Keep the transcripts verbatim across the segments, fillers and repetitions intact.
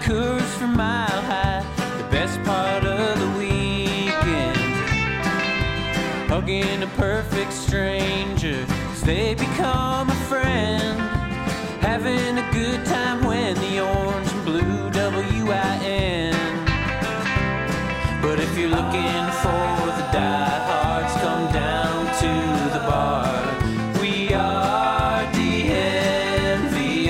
Coors from Mile High, the best part of the weekend. Hugging a perfect stranger as they become a friend. Having a good time when the orange and blue W I N. But if you're looking for the diehards, come down to the bar. We are D N V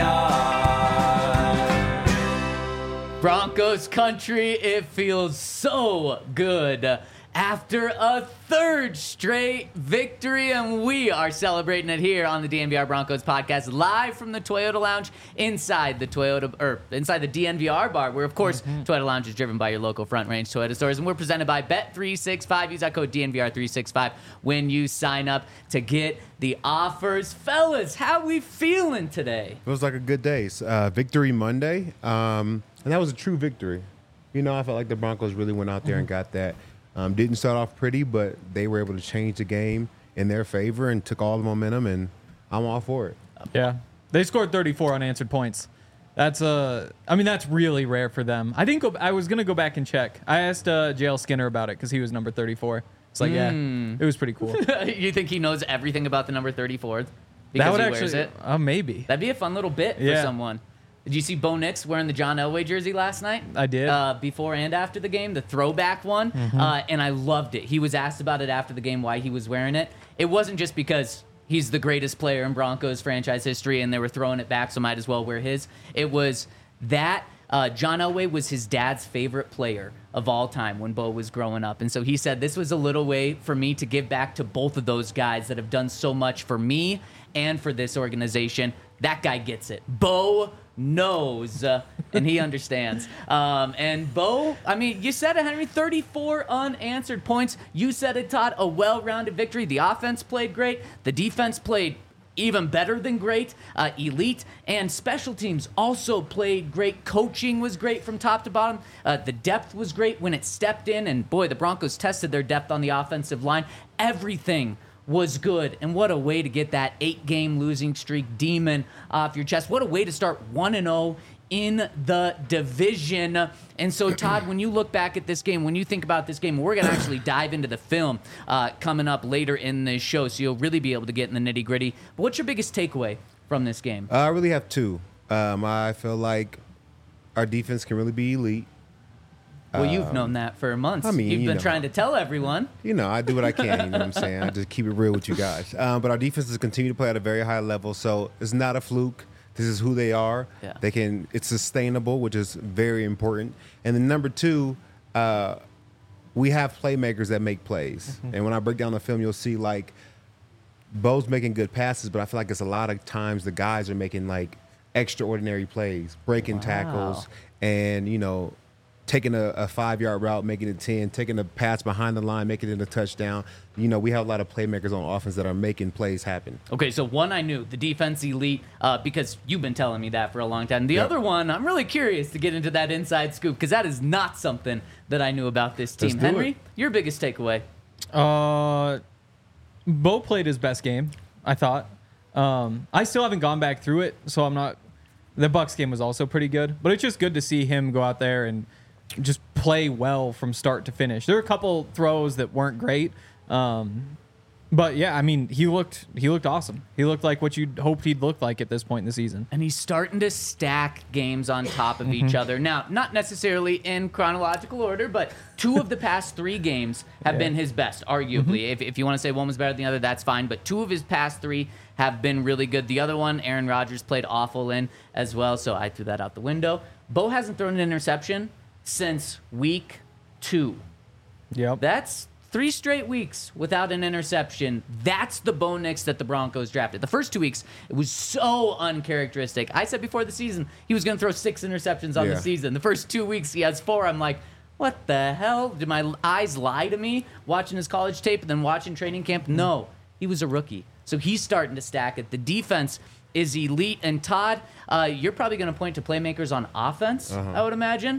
R. Broncos country, it feels so good after a third straight victory, and we are celebrating it here on the D N V R Broncos podcast, live from the Toyota Lounge inside the Toyota or inside the D N V R bar, where of course mm-hmm. Toyota Lounge is driven by your local Front Range Toyota stores, and we're presented by Bet three sixty-five. Use that code D N V R three sixty-five when you sign up to get the offers. Fellas, how we feeling today? It was like a good day. Uh, victory Monday, um, and that was a true victory. You know, I felt like the Broncos really went out there mm-hmm. and got that. Um, didn't start off pretty, but they were able to change the game in their favor and took all the momentum, and I'm all for it. Yeah. They scored thirty-four unanswered points. That's uh, I mean, that's really rare for them. I didn't go, I was going to go back and check. I asked uh, J L Skinner about it because he was number thirty-four. It's like, mm. yeah, it was pretty cool. You think he knows everything about the number thirty-four because that would he actually, wears it? Uh, maybe. That'd be a fun little bit yeah. for someone. Did you see Bo Nix wearing the John Elway jersey last night? I did. Uh, before and after the game, the throwback one. Mm-hmm. Uh, and I loved it. He was asked about it after the game, why he was wearing it. It wasn't just because he's the greatest player in Broncos franchise history and they were throwing it back, so might as well wear his. It was that uh, John Elway was his dad's favorite player of all time when Bo was growing up. And so he said, this was a little way for me to give back to both of those guys that have done so much for me and for this organization. That guy gets it. Bo knows, uh, and he understands. Um, and Bo, I mean, you said it, Henry, thirty-four unanswered points. You said it, Todd, a well-rounded victory. The offense played great. The defense played even better than great, uh, elite, and special teams also played great. Coaching was great from top to bottom. Uh, the depth was great when it stepped in, and boy, the Broncos tested their depth on the offensive line. Everything was good, and what a way to get that eight-game losing streak demon off your chest. What a way to start one and oh in the division. And so, Todd, when you look back at this game, when you think about this game, we're going to actually dive into the film uh, coming up later in this show, so you'll really be able to get in the nitty-gritty. But what's your biggest takeaway from this game? Uh, I really have two. Um, I feel like our defense can really be elite. Well, you've known that for months. I mean, You've you been know. trying to tell everyone. You know, I do what I can, you know what I'm saying? I just keep it real with you guys. Um, but our defenses continue to play at a very high level, so it's not a fluke. This is who they are. Yeah. They can. It's sustainable, which is very important. And then number two, uh, we have playmakers that make plays. Mm-hmm. And when I break down the film, you'll see, like, Bo's making good passes, but I feel like it's a lot of times the guys are making, like, extraordinary plays, breaking Wow. tackles, and, you know, taking a, a five-yard route, making it ten, taking a pass behind the line, making it a touchdown. You know, we have a lot of playmakers on offense that are making plays happen. Okay, so one I knew, the defense elite, uh, because you've been telling me that for a long time. The Yep. other one, I'm really curious to get into that inside scoop, because that is not something that I knew about this team. Let's do Henry, it. your biggest takeaway? Uh, Bo played his best game, I thought. Um, I still haven't gone back through it, so I'm not. The Bucs game was also pretty good, but it's just good to see him go out there and just play well from start to finish. There were a couple throws that weren't great, um, but yeah, I mean, he looked he looked awesome. He looked like what you'd hoped he'd look like at this point in the season. And he's starting to stack games on top of each other. Now, not necessarily in chronological order, but two of the past three games have Yeah. been his best, arguably. If, if you want to say one was better than the other, that's fine. But two of his past three have been really good. The other one, Aaron Rodgers played awful in as well, so I threw that out the window. Bo hasn't thrown an interception since week two. Yep. That's three straight weeks without an interception. That's the Bo Nix that the Broncos drafted. The first two weeks, it was so uncharacteristic. I said before the season he was going to throw six interceptions on Yeah. the season. The first two weeks, he has four. I'm like, what the hell? Did my eyes lie to me watching his college tape and then watching training camp? No, he was a rookie. So he's starting to stack it. The defense is elite. And Todd, uh, you're probably going to point to playmakers on offense, Uh-huh. I would imagine.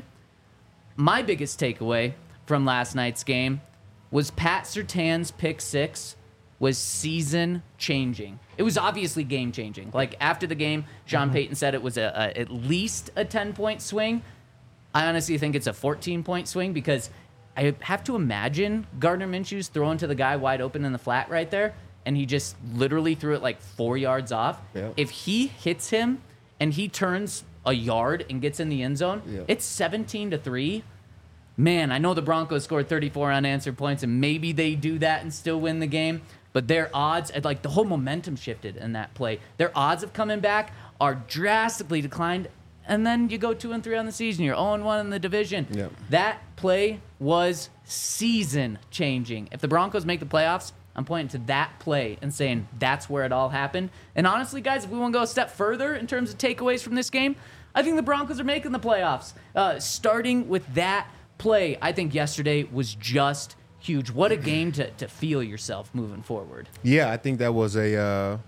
My biggest takeaway from last night's game was Pat Surtain's pick six was season changing. It was obviously game changing. Like after the game, Sean Mm-hmm. Payton said it was a, a at least a ten point swing. I honestly think it's a fourteen-point swing because I have to imagine Gardner Minshew's throwing to the guy wide open in the flat right there, and he just literally threw it like four yards off. Yep. If he hits him and he turns a yard and gets in the end zone, Yep. it's seventeen to three. Man, I know the Broncos scored thirty-four unanswered points, and maybe they do that and still win the game. But their odds, like the whole momentum shifted in that play. Their odds of coming back are drastically declined. And then you go two and three on the season. You're zero and one in the division. Yep. That play was season changing. If the Broncos make the playoffs, I'm pointing to that play and saying that's where it all happened. And honestly, guys, if we want to go a step further in terms of takeaways from this game, I think the Broncos are making the playoffs. Uh, starting with that play, I think yesterday was just huge. What a game to, to feel yourself moving forward. Yeah, I think that was a uh,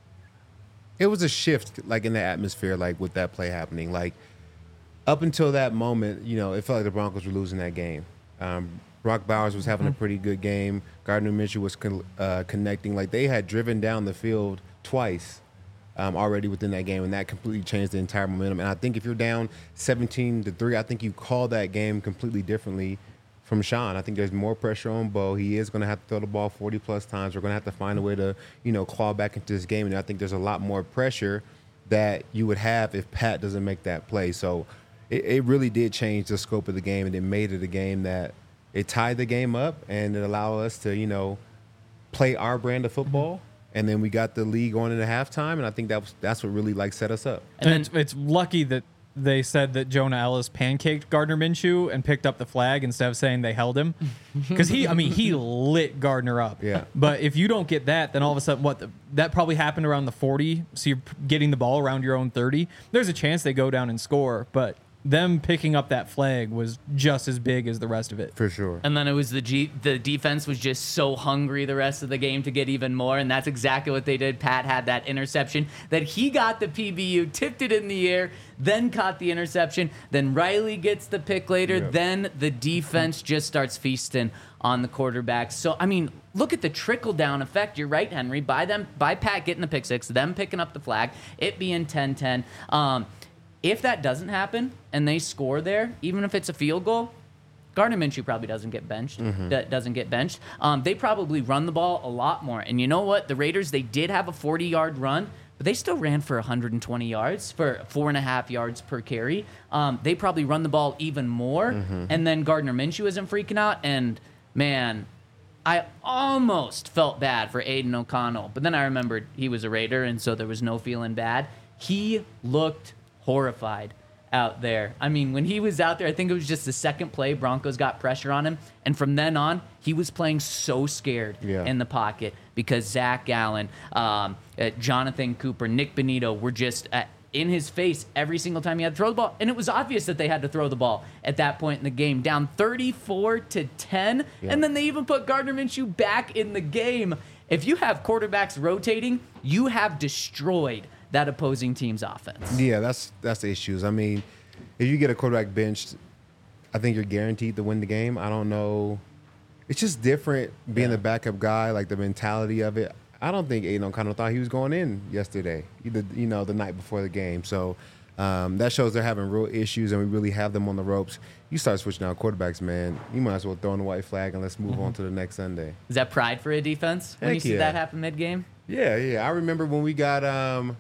it was a shift, like in the atmosphere, like with that play happening. Like up until that moment, you know, it felt like the Broncos were losing that game. Um, Brock Bowers was having a pretty good game. Gardner Minshew was con- uh, connecting. Like they had driven down the field twice um, already within that game, and that completely changed the entire momentum. And I think if you're down seventeen to three, I think you call that game completely differently from Sean. I think there's more pressure on Bo. He is going to have to throw the ball forty plus times. We're going to have to find a way to, you know, claw back into this game. And I think there's a lot more pressure that you would have if Pat doesn't make that play. So it, it really did change the scope of the game, and it made it a game that it tied the game up, and it allowed us to, you know, play our brand of football. Mm-hmm. And then we got the lead going into halftime, and I think that was that's what really like set us up. And And then, it's, it's lucky that they said that Jonah Ellis pancaked Gardner Minshew and picked up the flag instead of saying they held him. Because he, I mean, he lit Gardner up. Yeah. But if you don't get that, then all of a sudden, what, the, that probably happened around the forty. So you're getting the ball around your own thirty. There's a chance they go down and score, but them picking up that flag was just as big as the rest of it. For sure. And then it was the G- the defense was just so hungry the rest of the game to get even more, and that's exactly what they did. Pat had that interception that he got the P B U, tipped it in the air, then caught the interception. Then Riley gets the pick later. Yep. Then the defense just starts feasting on the quarterback. So, I mean, look at the trickle-down effect. You're right, Henry. By them, by Pat getting the pick six, them picking up the flag, it being ten ten. Um, If that doesn't happen and they score there, even if it's a field goal, Gardner Minshew probably doesn't get benched. Mm-hmm. That doesn't get benched. Um, they probably run the ball a lot more. And you know what? The Raiders, they did have a forty-yard run, but they still ran for one hundred twenty yards, for four and a half yards per carry. Um, they probably run the ball even more. Mm-hmm. And then Gardner Minshew isn't freaking out. And, man, I almost felt bad for Aiden O'Connell. But then I remembered he was a Raider, and so there was no feeling bad. He looked horrified out there. I mean, when he was out there, I think it was just the second play, Broncos got pressure on him. And from then on, he was playing so scared Yeah. in the pocket because Zach Allen, um, uh, Jonathan Cooper, Nick Benito were just uh, in his face every single time he had to throw the ball. And it was obvious that they had to throw the ball at that point in the game, down thirty-four to ten. Yeah. And then they even put Gardner Minshew back in the game. If you have quarterbacks rotating, you have destroyed that opposing team's offense. Yeah, that's that's the issues. I mean, if you get a quarterback benched, I think you're guaranteed to win the game. I don't know. It's just different being Yeah. the backup guy, like the mentality of it. I don't think Aiden O'Connell thought he was going in yesterday, either, you know, the night before the game. So um, that shows they're having real issues, and we really have them on the ropes. You start switching out quarterbacks, man. You might as well throw in the white flag and let's move on to the next Sunday. Is that pride for a defense when Heck you see yeah. that happen mid-game? Yeah, yeah. I remember when we got um,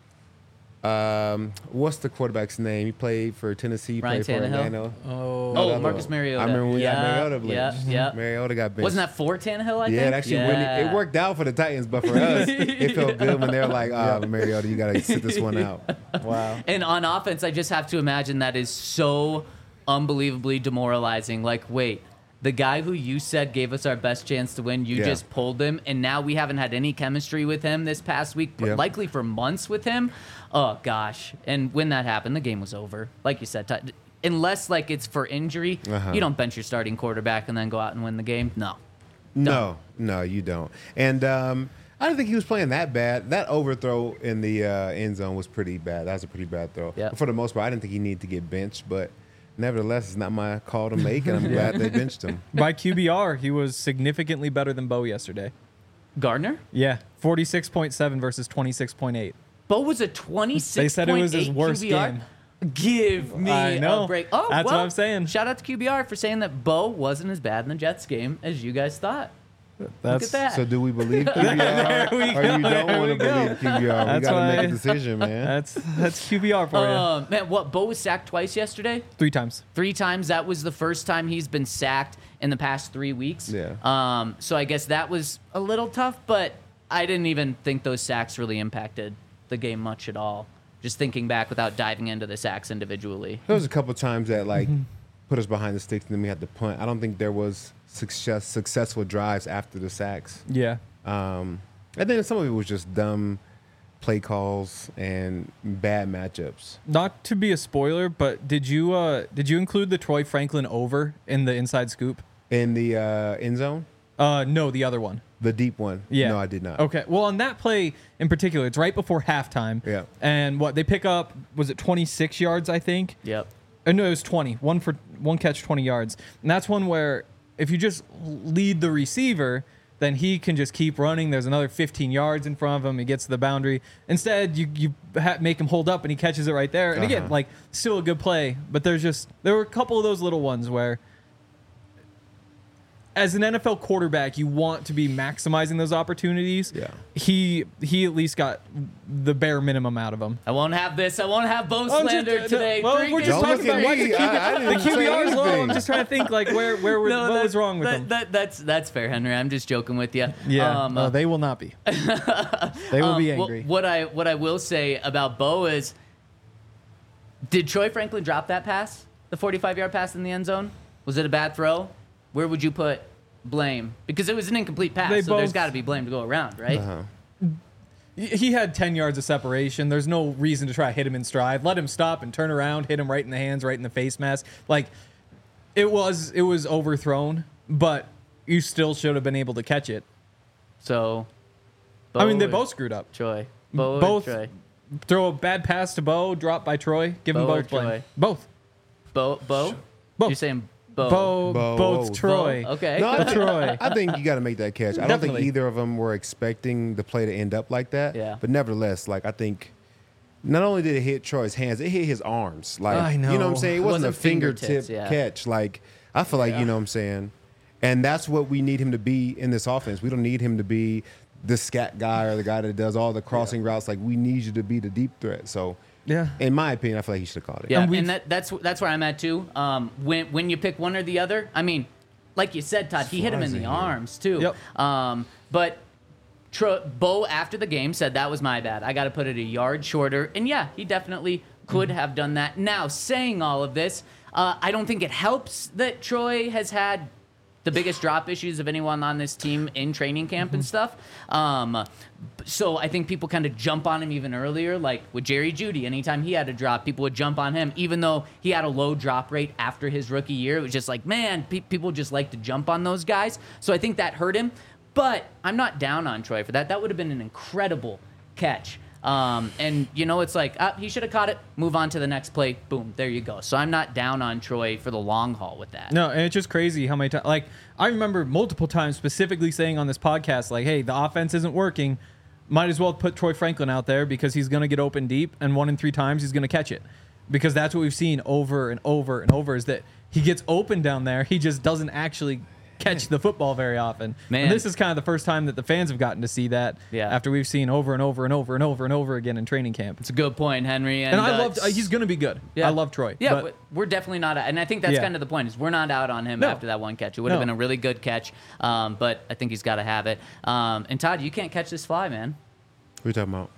um, what's the quarterback's name? He played for Tennessee. He Ryan played for Tannehill? Orlando. Oh, No, the Oh, other Marcus one. Mariota. I remember when we yeah, got Mariota benched. Yeah, yeah. Mariota got benched. Wasn't that for Tannehill, I yeah, think? it actually really, it worked out for the Titans, but for us, it felt good when they were like, "Ah, Mariota, you got to sit this one out." wow. And on offense, I just have to imagine that is so unbelievably demoralizing. Like, wait, the guy who you said gave us our best chance to win, you Yeah. just pulled him, and now we haven't had any chemistry with him this past week, Yeah. likely for months with him. Oh, gosh. And when that happened, the game was over. Like you said, Ty- unless, like, it's for injury, Uh-huh. you don't bench your starting quarterback and then go out and win the game. No. No, no, you don't. And um, I don't think he was playing that bad. That overthrow in the uh, end zone was pretty bad. That was a pretty bad throw. Yeah. For the most part, I didn't think he needed to get benched, but nevertheless, it's not my call to make, and I'm glad they benched him. By Q B R, he was significantly better than Bo yesterday. Gardner? Yeah, forty-six point seven versus twenty-six point eight. Bo was a twenty-six They said it was his worst Q B R. game. Give me I know. a break. Oh, That's well, what I'm saying. Shout out to Q B R for saying that Bo wasn't as bad in the Jets game as you guys thought. That's Look at that. So do we believe Q B R, There we or you go, don't there want we to go. believe Q B R? We That's got to make why- a decision, man. That's that's Q B R for you. Uh, man, what? Bo was sacked twice yesterday. Three times. Three times. That was the first time he's been sacked in the past three weeks. Yeah. Um. So I guess that was a little tough, but I didn't even think those sacks really impacted the game much at all. Just thinking back without diving into the sacks individually. There was a couple times that like put us behind the sticks, and then we had to punt. I don't think there was success successful drives after the sacks. Yeah. Um, and then some of it was just dumb play calls and bad matchups. Not to be a spoiler, but did you uh did you include the Troy Franklin over in the inside scoop? In the uh, end zone, Uh, no, the other one. the deep one. Yeah. No, I did not. Okay. Well, on that play in particular, it's right before halftime. Yeah. And what they pick up was it twenty-six yards, I think. Yep. Uh, no, it was twenty. One for one catch, twenty yards. And that's one where if you just lead the receiver, then he can just keep running. There's another fifteen yards in front of him. He gets to the boundary. Instead, you you ha- make him hold up, and he catches it right there. And again, Uh-huh. like still a good play, but there's just there were a couple of those little ones where, as an N F L quarterback, you want to be maximizing those opportunities. Yeah. He he at least got the bare minimum out of him. I won't have this. I won't have Bo I'm just- slander no, today. well, Three we're just games. Don't talking look at about why me. the Q B R I- I didn't the Q B R is say low. I'm anything. just trying to think like where where was, No, what that- was wrong with that, him. That, that's that's fair, Henry. I'm just joking with you. Yeah, Um, no, they will not be. They will um, be wh- angry. What I what I will say about Bo is, did Troy Franklin drop that pass, the forty-five yard pass in the end zone? Was it a bad throw? Where would you put blame? Because it was an incomplete pass, They so there's both- got to be blame to go around, right? Uh-huh. He- He had ten yards of separation. There's no reason to try to hit him in stride. Let him stop and turn around, hit him right in the hands, right in the face mask. Like it was it was overthrown, but you still should have been able to catch it. So, Bo I mean, they or both screwed up. Troy. Bo or Both Troy. throw a bad pass to Bo, drop by Troy, give them Bo or both blame. Troy? Both. Bo. Bo. Both. You're saying Bo. Bo, Bo. both Bo. Troy. Bo. Okay. No, I think, Troy. I think you got to make that catch. I don't Definitely. think either of them were expecting the play to end up like that. Yeah. But nevertheless, like I think, not only did it hit Troy's hands, it hit his arms. Like I you know what I'm know. saying? It It wasn't, wasn't a fingertip fingertips, yeah. catch. Like I feel like you know what I'm saying, and that's what we need him to be in this offense. We don't need him to be the scat guy or the guy that does all the crossing routes. Like we need you to be the deep threat. So Yeah. in my opinion, I feel like he should have caught it. Yeah, And and, we've- that, that's that's where I'm at too. Um, when when you pick one or the other, I mean, like you said, Todd, he hit him in Flies the in here. arms too. Yep. Um, but Tro- Bo after the game said that was my bad. I got to put it a yard shorter, and yeah, he definitely could Mm-hmm. have done that. Now, saying all of this, uh, I don't think it helps that Troy has had the biggest drop issues of anyone on this team in training camp and stuff. Um, so I think people kind of jump on him even earlier, like with Jerry Jeudy. Anytime he had a drop, people would jump on him, even though he had a low drop rate after his rookie year. It was just like, man, pe- people just like to jump on those guys. So I think that hurt him. But I'm not down on Troy for that. That would have been an incredible catch. Um, and, you know, it's like, ah, he should have caught it. Move on to the next play. Boom, there you go. So I'm not down on Troy for the long haul with that. No, and it's just crazy how many times. Like, I remember multiple times specifically saying on this podcast, like, hey, the offense isn't working. Might as well put Troy Franklin out there because he's going to get open deep, and one in three times he's going to catch it. Because that's what we've seen over and over and over is that he gets open down there. He just doesn't actually catch the football very often. Man. And this is kind of the first time that the fans have gotten to see that Yeah. after we've seen over and over and over and over and over again in training camp. It's a good point, Henry. And, And I uh, loved, uh, he's going to be good. Yeah. I love Troy. Yeah, but- but we're definitely not, and I think that's Yeah. kind of the point is we're not out on him No. after that one catch. It would have No. been a really good catch, um, but I think he's got to have it. Um, and Todd, you can't catch this fly, man. What are you talking about?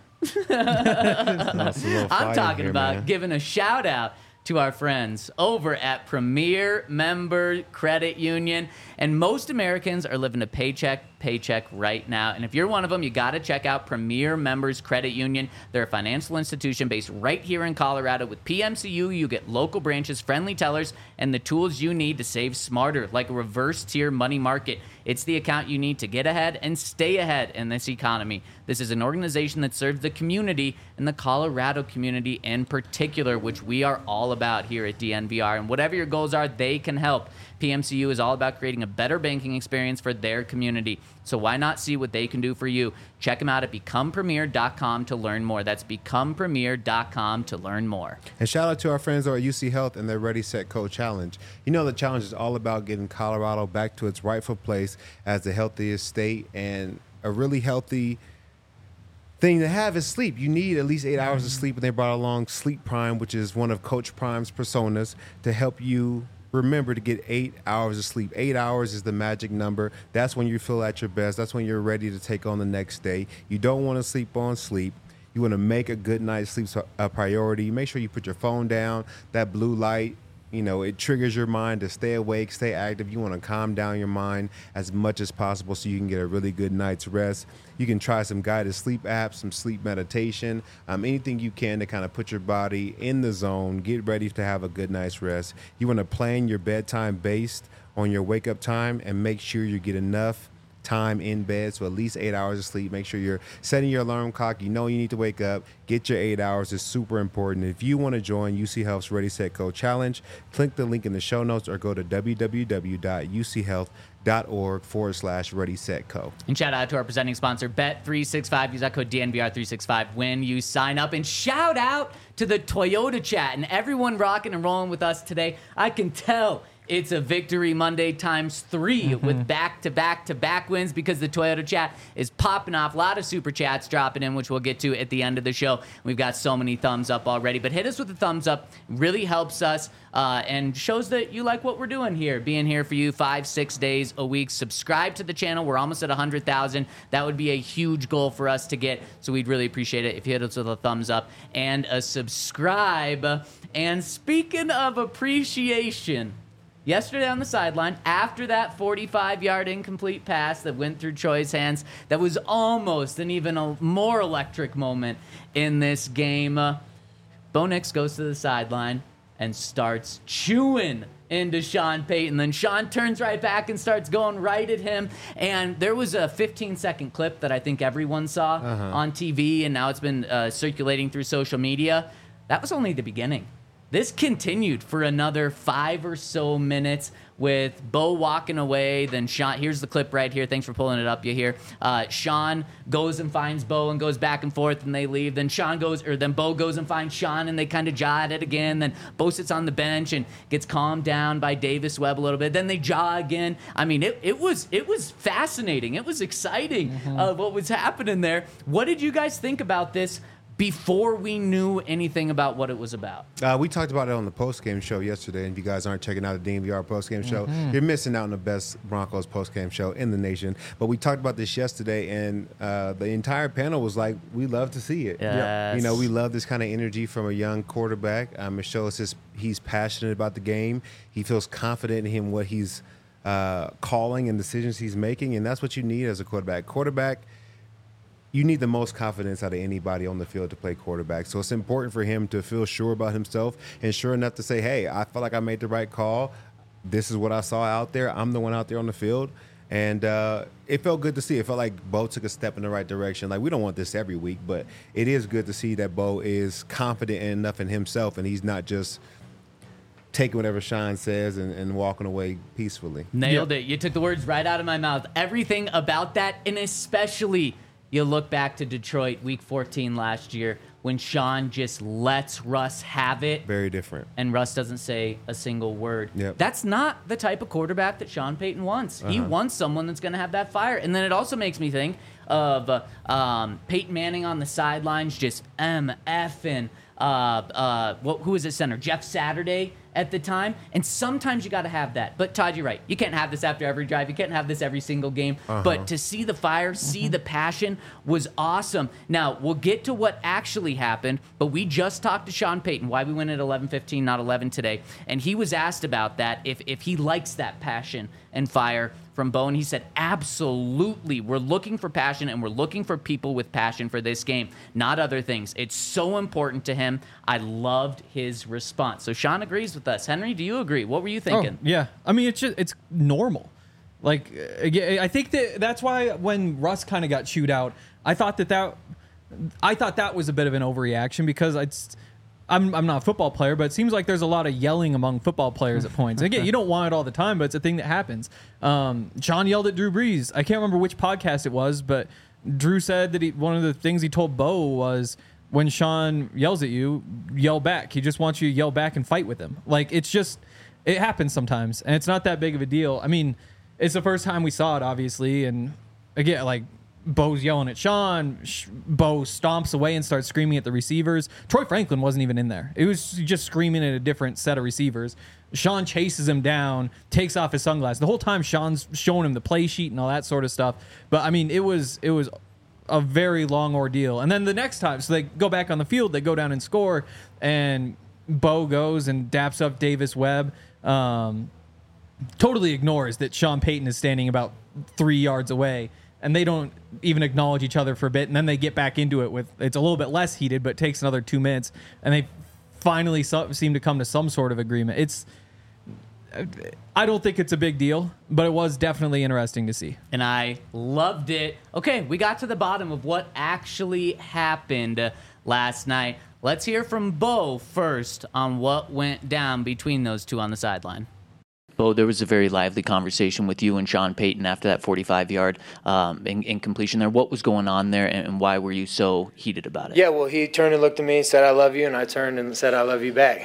That's a little fire I'm talking here, about man. giving a shout out to our friends over at Premier Member Credit Union. And most Americans are living a paycheck paycheck right now. And if you're one of them, you got to check out Premier Members Credit Union. They're a financial institution based right here in Colorado. With P M C U, you get local branches, friendly tellers, and the tools you need to save smarter, like a reverse tier money market. It's the account you need to get ahead and stay ahead in this economy. This is an organization that serves the community and the Colorado community in particular, which we are all about here at D N V R. And whatever your goals are, they can help. P M C U is all about creating a better banking experience for their community. So why not see what they can do for you? Check them out at become premier dot com to learn more. That's become premier dot com to learn more. And shout out to our friends over at U C Health and their Ready, Set, Go challenge. You know, the challenge is all about getting Colorado back to its rightful place as the healthiest state, and a really healthy thing to have is sleep. You need at least eight hours of sleep, and they brought along Sleep Prime, which is one of Coach Prime's personas, to help you remember to get eight hours of sleep. Eight hours is the magic number. That's when you feel at your best. That's when you're ready to take on the next day. You don't want to sleep on sleep. You want to make a good night's sleep a priority. Make sure you put your phone down. That blue light, you know, it triggers your mind to stay awake, stay active. You want to calm down your mind as much as possible so you can get a really good night's rest. You can try some guided sleep apps, some sleep meditation, um, anything you can to kind of put your body in the zone, get ready to have a good night's rest. You want to plan your bedtime based on your wake up time and make sure you get enough time in bed, so at least eight hours of sleep. Make sure you're setting your alarm clock. You know you need to wake up. Get your eight hours. It's super important. If you want to join U C Health's Ready, Set, Go challenge, click the link in the show notes or go to www.uchealth.org forward slash Ready, Set, Go. And shout out to our presenting sponsor, Bet three sixty-five. Use that code D N V R three sixty-five when you sign up. And shout out to the Toyota chat and everyone rocking and rolling with us today. I can tell it's a Victory Monday times three mm-hmm. with back-to-back-to-back wins because the Toyota chat is popping off. A lot of super chats dropping in, which we'll get to at the end of the show. We've got so many thumbs up already. But hit us with a thumbs up. Really helps us uh, and shows that you like what we're doing here, being here for you five, six days a week. Subscribe to the channel. We're almost at one hundred thousand. That would be a huge goal for us to get, so we'd really appreciate it if you hit us with a thumbs up and a subscribe. And speaking of appreciation, yesterday on the sideline, after that forty-five-yard incomplete pass that went through Troy's hands, that was almost an even a more electric moment in this game. Uh, Bo Nix goes to the sideline and starts chewing into Sean Payton. Then Sean turns right back and starts going right at him. And there was a fifteen-second clip that I think everyone saw uh-huh. on T V, and now it's been uh, circulating through social media. That was only the beginning. This continued for another five or so minutes with Bo walking away. Then Sean, here's the clip right here. Thanks for pulling it up. You hear uh, Sean goes and finds Bo and goes back and forth, and they leave. Then Sean goes, or then Bo goes and finds Sean, and they kind of jaw at it again. Then Bo sits on the bench and gets calmed down by Davis Webb a little bit. Then they jaw again. I mean, it, it was it was fascinating. It was exciting mm-hmm. uh, what was happening there. What did you guys think about this before we knew anything about what it was about? Uh, we talked about it on the post-game show yesterday, and if you guys aren't checking out the D N V R post-game show, mm-hmm. you're missing out on the best Broncos post-game show in the nation. But we talked about this yesterday, and uh, the entire panel was like, we love to see it. Yes. You know, we love this kind of energy from a young quarterback. Um, it shows his, he's passionate about the game. He feels confident in him, what he's uh, calling and decisions he's making, and that's what you need as a quarterback. Quarterback, you need the most confidence out of anybody on the field to play quarterback. So it's important for him to feel sure about himself and sure enough to say, hey, I feel like I made the right call. This is what I saw out there. I'm the one out there on the field. And uh, it felt good to see. It felt like Bo took a step in the right direction. Like, we don't want this every week, but it is good to see that Bo is confident enough in himself and he's not just taking whatever Sean says and, and walking away peacefully. Nailed yep. it. You took the words right out of my mouth. Everything about that, and especially you look back to Detroit week fourteen last year when Sean just lets Russ have it. Very different. And Russ doesn't say a single word. Yep. That's not the type of quarterback that Sean Payton wants. Uh-huh. He wants someone that's going to have that fire. And then it also makes me think of uh, um, Peyton Manning on the sidelines just MFing. Uh, uh, what, who was his center? Jeff Saturday at the time. And sometimes you got to have that. But Todd, you're right. You can't have this after every drive. You can't have this every single game. Uh-huh. But to see the fire, see the passion was awesome. Now, we'll get to what actually happened, but we just talked to Sean Payton, why we went at eleven fifteen, not eleven today. And he was asked about that, if, if he likes that passion and fire from Bo, and he said, absolutely. We're looking for passion, and we're looking for people with passion for this game, not other things. It's so important to him. I loved his response. So Sean agrees with us. Henry, do you agree? What were you thinking? Oh, yeah. I mean, it's just, it's normal. Like, I think that that's why when Russ kind of got chewed out, I thought that that, I thought that was a bit of an overreaction because it's, I'm I'm not a football player, but it seems like there's a lot of yelling among football players at points. Again, you don't want it all the time, but it's a thing that happens. Um, Sean yelled at Drew Brees. I can't remember which podcast it was, but Drew said that he, one of the things he told Bo was, when Sean yells at you, yell back. He just wants you to yell back and fight with him. Like, it's just, it happens sometimes, and it's not that big of a deal. I mean, it's the first time we saw it, obviously, and again, like, Bo's yelling at Sean. Bo stomps away and starts screaming at the receivers. Troy Franklin wasn't even in there. It was just screaming at a different set of receivers. Sean chases him down, takes off his sunglasses. The whole time Sean's showing him the play sheet and all that sort of stuff. But, I mean, it was it was a very long ordeal. And then the next time, so they go back on the field, they go down and score, and Bo goes and daps up Davis Webb. Um, totally ignores that Sean Payton is standing about three yards away, and they don't even acknowledge each other for a bit, and then they get back into it with, it's a little bit less heated, but it takes another two minutes, and they finally so, seem to come to some sort of agreement. It's, I don't think it's a big deal, but it was definitely interesting to see. And I loved it. Okay, we got to the bottom of what actually happened last night. Let's hear from Bo first on what went down between those two on the sideline. Bo, there was a very lively conversation with you and Sean Payton after that forty-five-yard um, incompletion there. What was going on there, and why were you so heated about it? Yeah, well, he turned and looked at me and said, "I love you," and I turned and said, "I love you back."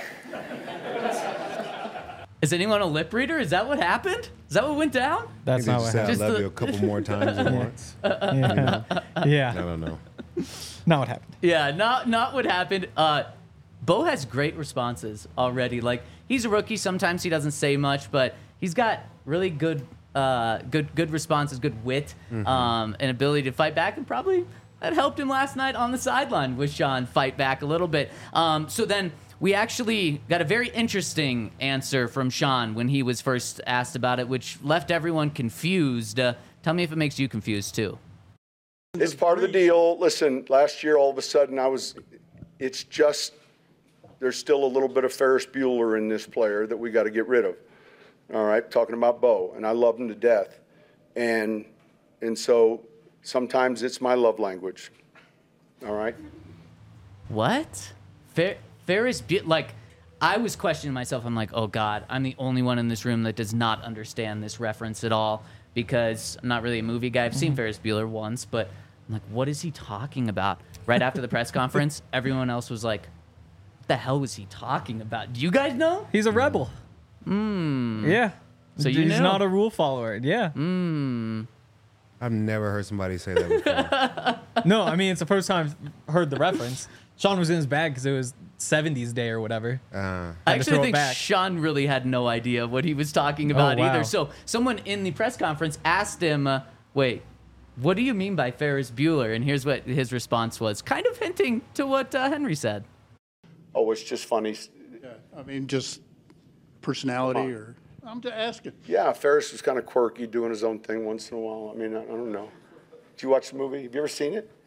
Is anyone a lip reader? Is that what happened? Is that what went down? That's They not just what said, happened. I love the- you a couple more times at once. Yeah. yeah. I don't know. Not what happened. Yeah, not not what happened. Uh, Bo has great responses already. Like, he's a rookie. Sometimes he doesn't say much, but he's got really good, uh, good, good responses, good wit, Mm-hmm. um, and ability to fight back. And probably that helped him last night on the sideline with Sean fight back a little bit. Um, so then we actually got a very interesting answer from Sean when he was first asked about it, which left everyone confused. Uh, tell me if it makes you confused too. It's part of the deal. Listen, last year, all of a sudden, I was, it's just, there's still a little bit of Ferris Bueller in this player that we got to get rid of. All right, talking about Bo, and I love him to death. And, and so sometimes it's my love language. All right? What? Fer- Ferris Bueller, like, I was questioning myself. I'm like, oh God, I'm the only one in this room that does not understand this reference at all, because I'm not really a movie guy. I've seen Ferris Bueller once, but I'm like, what is he talking about? Right after the press conference, everyone else was like, what the hell was he talking about? Do you guys know? He's a rebel. Mm. Yeah. So you He's knew. not a rule follower. Yeah. Mm. I've never heard somebody say that before. No, I mean, it's the first time I've heard the reference. Sean was in his bag because it was seventies day or whatever. Uh, I Had to actually throw it think back. Sean really had no idea what he was talking about Oh, wow. either. So someone in the press conference asked him, uh, wait, what do you mean by Ferris Bueller? And here's what his response was, kind of hinting to what uh, Henry said. Oh, it's just funny. Yeah, I mean, just personality or, I'm just asking. Yeah, Ferris was kind of quirky, doing his own thing once in a while. I mean, I, I don't know. Did you watch the movie? Have you ever seen it?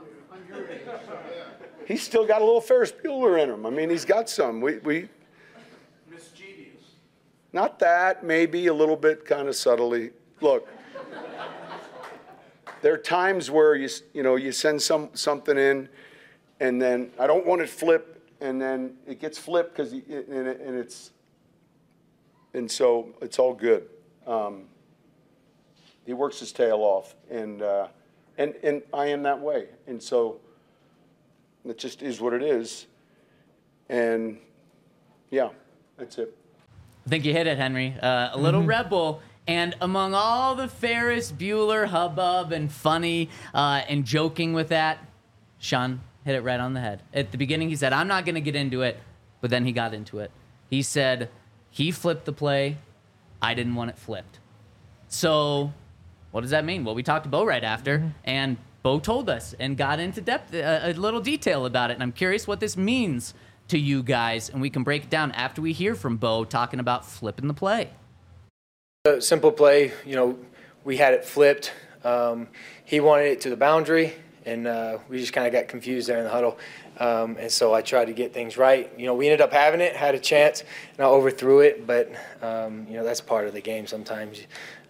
He's still got a little Ferris Bueller in him. I mean, he's got some. We, we Mischievous. Not that, maybe a little bit kind of subtly. Look, there are times where you, you know, you send some something in, and then I don't want it flipped, and then it gets flipped because and, it, and it's, and so it's all good. Um, he works his tail off, and uh, and and I am that way, and so it just is what it is, and yeah, that's it. I think you hit it, Henry. Uh, a little rebel. And among all the Ferris Bueller hubbub and funny uh, and joking with that, Sean hit it right on the head. At the beginning, he said, I'm not going to get into it, but then he got into it. He said he flipped the play. I didn't want it flipped. So what does that mean? Well, we talked to Bo right after, and Bo told us and got into depth, a, a little detail about it. And I'm curious what this means to you guys, and we can break it down after we hear from Bo talking about flipping the play. A simple play, you know, we had it flipped. Um, he wanted it to the boundary, and uh, we just kind of got confused there in the huddle. Um, and so I tried to get things right. You know, we ended up having it, had a chance, and I overthrew it. But, um, you know, that's part of the game sometimes.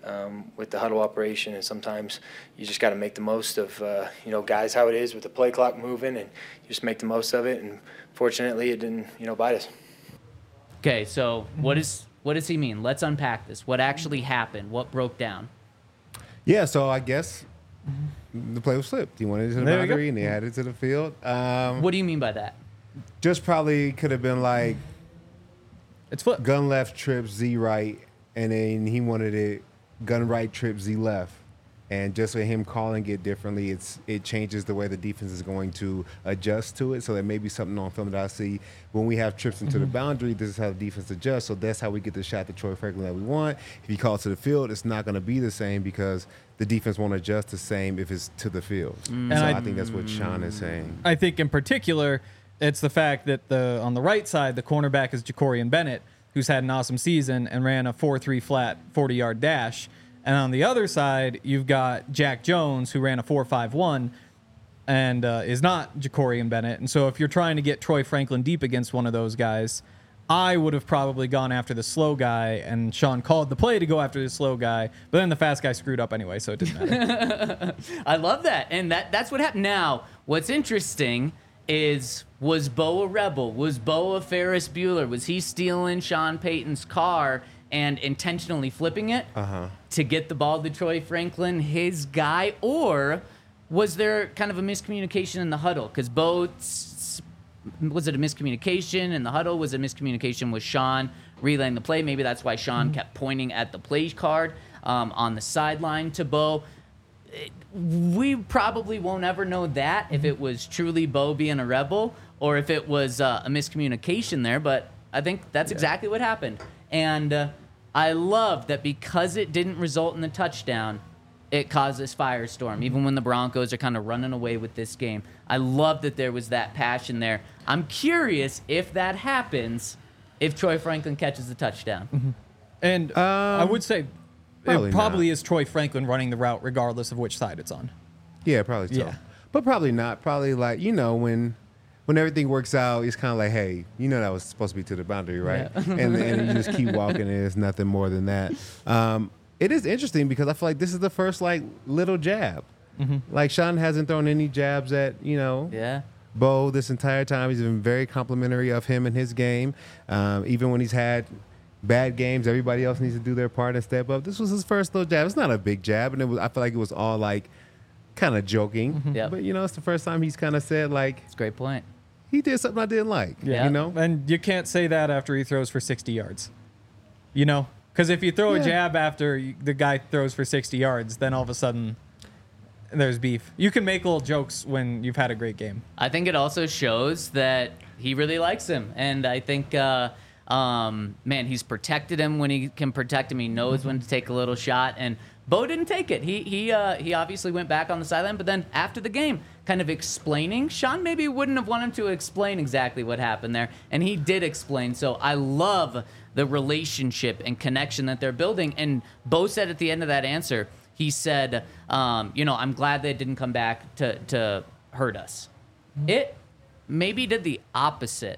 um, with the huddle operation, and sometimes you just got to make the most of, uh, you know, guys, how it is with the play clock moving, and you just make the most of it. And fortunately, it didn't, you know, bite us. Okay, so what is what does he mean? Let's unpack this. What actually happened? What broke down? Yeah, so I guess the play was flipped. He wanted it to the There you go. boundary, and he added it to the field. Um, What do you mean by that? just probably could have been like It's flip. gun left, trip, Z right, and then he wanted it gun right, trip, Z left. And just with him calling it differently, it's it changes the way the defense is going to adjust to it. So there may be something on film that I see when we have trips into the boundary. This is how the defense adjusts. So that's how we get the shot to Troy Franklin that we want. If he calls to the field, it's not going to be the same because the defense won't adjust the same if it's to the field. So And I, I- think that's what Sean is saying. I think in particular, it's the fact that the on the right side, the cornerback is Jacorian Bennett, who's had an awesome season and ran a four three flat forty-yard dash. And on the other side, you've got Jack Jones, who ran a four five one and uh, is not Jacorian Bennett. And so if you're trying to get Troy Franklin deep against one of those guys, I would have probably gone after the slow guy, and Sean called the play to go after the slow guy, but then the fast guy screwed up anyway, so it didn't matter. I love that, and that that's what happened. Now, what's interesting is, was Bo a rebel? Was Bo a Ferris Bueller? Was he stealing Sean Payton's car and intentionally flipping it Uh-huh. to get the ball to Troy Franklin, his guy? Or was there kind of a miscommunication in the huddle? Because Bo, s- was it a miscommunication in the huddle? Was it a miscommunication with Sean relaying the play? Maybe that's why Sean kept pointing at the play card um, on the sideline to Bo. We probably won't ever know that if it was truly Bo being a rebel or if it was uh, a miscommunication there, but I think that's exactly what happened. And uh, I love that because it didn't result in a touchdown, it caused this firestorm, even when the Broncos are kind of running away with this game. I love that there was that passion there. I'm curious if that happens, if Troy Franklin catches the touchdown. And I would say probably it probably not. is Troy Franklin running the route regardless of which side it's on. Yeah, probably so. Yeah. But probably not. Probably like, you know, when when everything works out, it's kind of like, hey, you know that was supposed to be to the boundary, right? and, and you just keep walking, and it's nothing more than that. Um, it is interesting because I feel like this is the first, like, little jab. Like, Sean hasn't thrown any jabs at, you know, Yeah. Bo this entire time. He's been very complimentary of him and his game. Um, even when he's had bad games, everybody else needs to do their part and step up. This was his first little jab. It's not a big jab, and it was. I feel like it was all, like, kind of joking. Yep. But, you know, it's the first time he's kind of said, like, It's a great point. he did something I didn't like. Yeah. You know? And you can't say that after he throws for sixty yards. You know? Because if you throw Yeah. a jab after you- the guy throws for sixty yards, then all of a sudden there's beef. You can make little jokes when you've had a great game. I think it also shows that he really likes him. And I think, uh, um, man, he's protected him when he can protect him. He knows when to take a little shot. And Bo didn't take it. He he uh, he obviously went back on the sideline. But then after the game, kind of explaining, Sean maybe wouldn't have wanted to explain exactly what happened there. And he did explain. So I love the relationship and connection that they're building. And Bo said at the end of that answer, he said, um, you know, I'm glad they didn't come back to, to hurt us. It maybe did the opposite.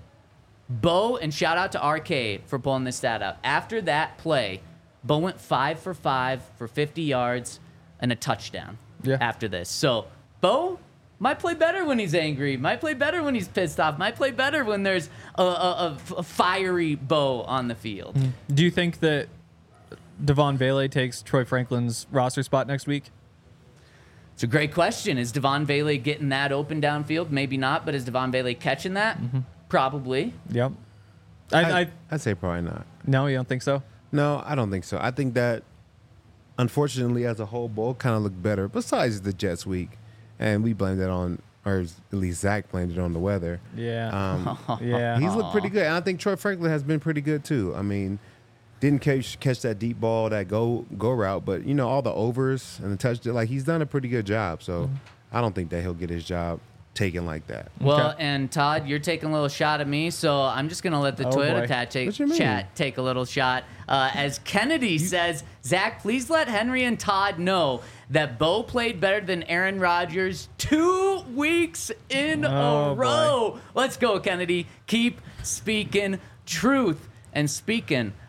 Bo, and shout out to R K for pulling this stat out. After that play, Bo went five for five for fifty yards and a touchdown Yeah. after this. So Bo might play better when he's angry, might play better when he's pissed off, might play better when there's a, a, a fiery Bo on the field. Do you think that Devon Vele takes Troy Franklin's roster spot next week? It's a great question. Is Devon Vele getting that open downfield? Maybe not, but is Devon Vele catching that? Probably. Yep. I, I, I, I'd say probably not. no, you don't think so? No, I don't think so. I think that, unfortunately, as a whole, Bo kind of looked better. Besides the Jets week, and we blamed it on, or at least Zach blamed it on the weather. Yeah. Um, yeah. he's looked pretty good. And I think Troy Franklin has been pretty good too. I mean, didn't catch catch that deep ball, that go go route, but you know all the overs and the touch. Like he's done a pretty good job. So Mm-hmm. I don't think that he'll get his job taken like that. Well, Okay. and Todd, you're taking a little shot at me, so I'm just going to let the Oh, Toyota boy. chat take, What you mean? chat take a little shot. Uh, as Kennedy says, Zach, please let Henry and Todd know that Bo played better than Aaron Rodgers two weeks in Oh, a boy. row. Let's go, Kennedy. Keep speaking truth. And speaking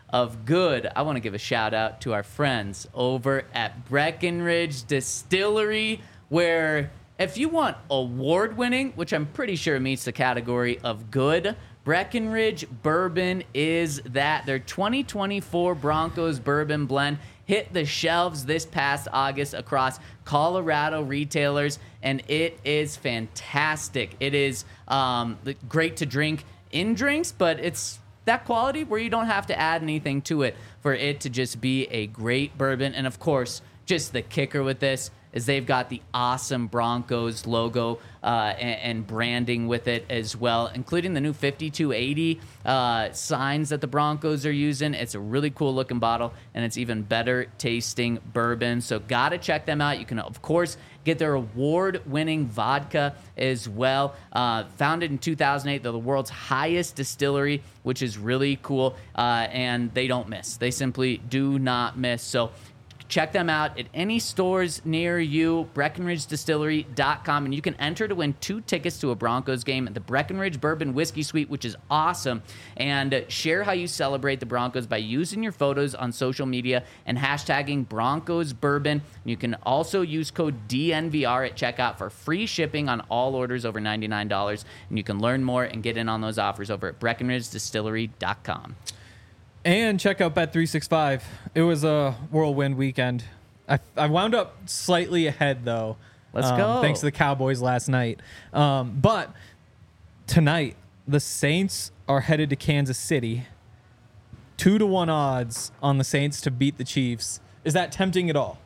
of good, I want to give a shout out to our friends over at Breckenridge Distillery, where if you want award-winning, which I'm pretty sure meets the category of good, Breckenridge Bourbon is that. Their twenty twenty-four Broncos Bourbon Blend hit the shelves this past August across Colorado retailers, and it is fantastic. It is um, great to drink in drinks, but it's that quality where you don't have to add anything to it for it to just be a great bourbon. And of course, just the kicker with this is they've got the awesome Broncos logo uh, and, and branding with it as well, including the new fifty-two eighty uh, signs that the Broncos are using. It's a really cool looking bottle, and it's even better tasting bourbon. So gotta check them out. You can, of course, get their award-winning vodka as well. Uh, founded in two thousand eight, they're the world's highest distillery, which is really cool, uh, and they don't miss. They simply do not miss. So check them out at any stores near you, Breckenridge Distillery dot com, and you can enter to win two tickets to a Broncos game at the Breckenridge Bourbon Whiskey Suite, which is awesome. And share how you celebrate the Broncos by using your photos on social media and hashtagging Broncos Bourbon. You can also use code D N V R at checkout for free shipping on all orders over ninety-nine dollars. And you can learn more and get in on those offers over at Breckenridge Distillery dot com. And check out Bet three sixty-five. It was a whirlwind weekend. I, I wound up slightly ahead, though. Let's um, go. Thanks to the Cowboys last night. Um, but tonight, the Saints are headed to Kansas City. Two to one odds on the Saints to beat the Chiefs. Is that tempting at all?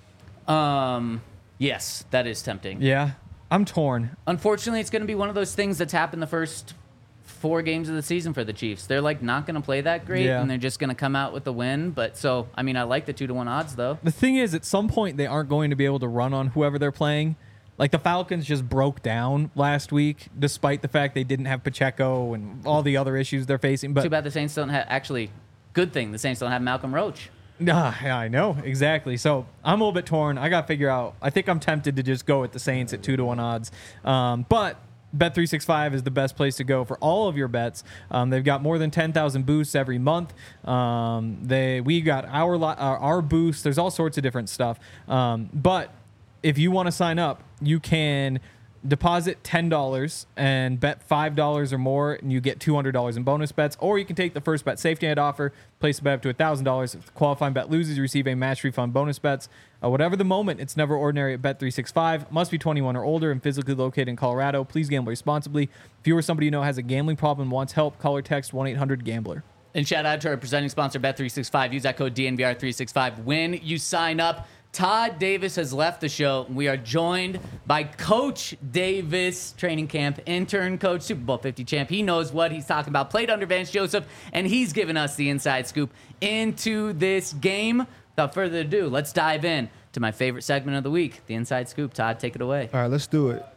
Um, yes, that is tempting. Yeah, I'm torn. Unfortunately, it's going to be one of those things that's happened the first four games of the season for the Chiefs. They're like not going to play that great, Yeah. and they're just going to come out with the win. But so, I mean, I like the two to one odds though. The thing is, at some point, they aren't going to be able to run on whoever they're playing. Like the Falcons just broke down last week, despite the fact they didn't have Pacheco and all the other issues they're facing. But Too bad the Saints don't have. Actually, good thing the Saints don't have Malcolm Roach. Nah, yeah, I know exactly. So I'm a little bit torn. I got to figure out. I think I'm tempted to just go with the Saints at two to one odds. Um, but Bet three sixty-five is the best place to go for all of your bets. Um, they've got more than ten thousand boosts every month. Um, they we got our li- our, our boosts. There's all sorts of different stuff. Um, but if you want to sign up, you can deposit ten dollars and bet five dollars or more, and you get two hundred dollars in bonus bets. Or you can take the first bet safety net offer, place a bet up to one thousand dollars. If the qualifying bet loses, you receive a match refund bonus bets. Uh, whatever the moment, it's never ordinary at Bet three sixty-five. Must be twenty-one or older and physically located in Colorado. Please gamble responsibly. If you or somebody you know has a gambling problem and wants help, call or text one eight hundred gambler. And shout out to our presenting sponsor, Bet three sixty-five. Use that code D N V R three sixty-five when you sign up. Todd Davis has left the show. We are joined by Coach Davis, training camp intern coach, Super Bowl fifty champ. He knows what he's talking about. Played under Vance Joseph, and he's given us the inside scoop into this game. Without further ado, let's dive in to my favorite segment of the week, the inside scoop. Todd, take it away. All right, let's do it.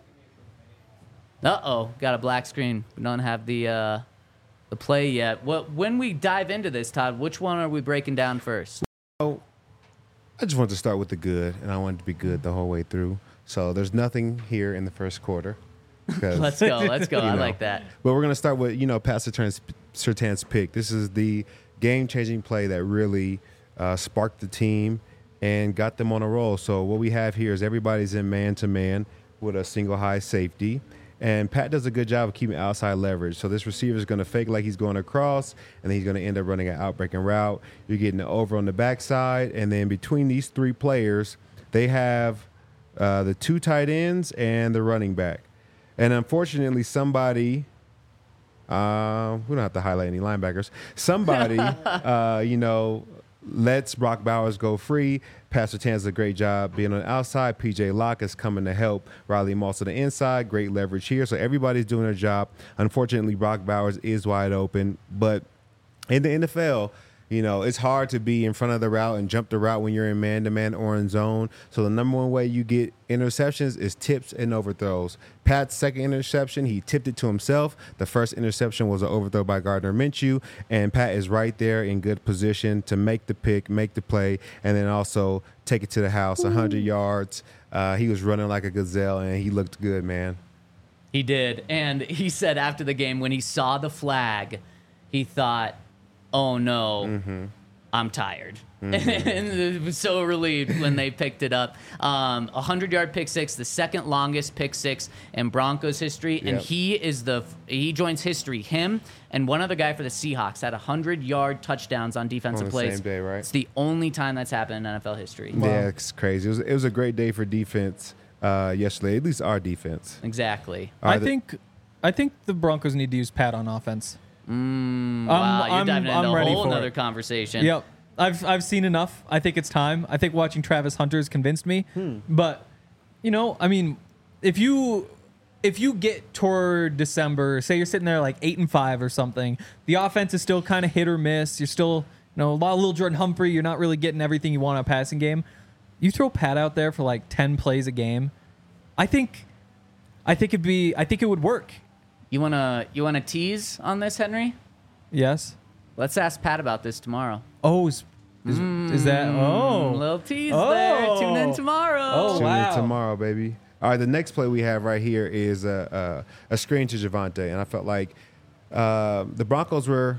Uh-oh, got a black screen. We don't have the uh, the play yet. What? When we dive into this, Todd, which one are we breaking down first? Oh, I just wanted to start with the good, and I wanted to be good the whole way through. So there's nothing here in the first quarter. Let's go. Let's go. You I know. like that. But we're going to start with, you know, Pat Surtain's, Surtain's pick. This is the game-changing play that really uh, sparked the team and got them on a roll. So what we have here is everybody's in man-to-man with a single high safety. And Pat does a good job of keeping outside leverage. So this receiver is going to fake like he's going across, and then he's going to end up running an outbreaking route. You're getting the over on the backside. And then between these three players, they have uh, the two tight ends and the running back. And unfortunately, somebody, uh, we don't have to highlight any linebackers, somebody, uh, you know, lets Brock Bowers go free. Pat Surtain does a great job being on the outside. P J Locke is coming to help Riley Moss on the inside. Great leverage here. So everybody's doing their job. Unfortunately, Brock Bowers is wide open. But in the N F L, you know, it's hard to be in front of the route and jump the route when you're in man-to-man or in zone. So the number one way you get interceptions is tips and overthrows. Pat's second interception, he tipped it to himself. The first interception was an overthrow by Gardner Minshew, and Pat is right there in good position to make the pick, make the play, and then also take it to the house, one hundred yards. Uh, he was running like a gazelle, and he looked good, man. He did. And he said after the game, when he saw the flag, he thought, oh no, Mm-hmm. I'm tired. And it was so relieved when they picked it up. Um, a hundred-yard pick six, the second longest pick six in Broncos history, and Yep. he is the he joins history. Him and one other guy for the Seahawks had hundred-yard touchdowns on defensive On the plays. same day, right? It's the only time that's happened in N F L history. Yeah, it's crazy. It was it was a great day for defense uh, yesterday. At least our defense. Exactly. All I right, the- think I think the Broncos need to use Pat on offense. Mm, wow, you're I'm- diving I'm into a ready whole for other it. conversation. Yep. I've I've seen enough. I think it's time. I think watching Travis Hunter has convinced me. Hmm. But you know, I mean, if you if you get toward December, say you're sitting there like eight and five or something, the offense is still kind of hit or miss. You're still, you know, a lot of little Jordan Humphrey. You're not really getting everything you want in a passing game. You throw Pat out there for like ten plays a game. I think, I think it'd be. I think it would work. You wanna you wanna tease on this, Henry? Yes. Let's ask Pat about this tomorrow. Oh, is, is, is that? A Oh, little tease there. Tune in Oh. tomorrow. Oh, Tune wow. in tomorrow, baby. All right, the next play we have right here is a a, a screen to Javonte, and I felt like uh, the Broncos were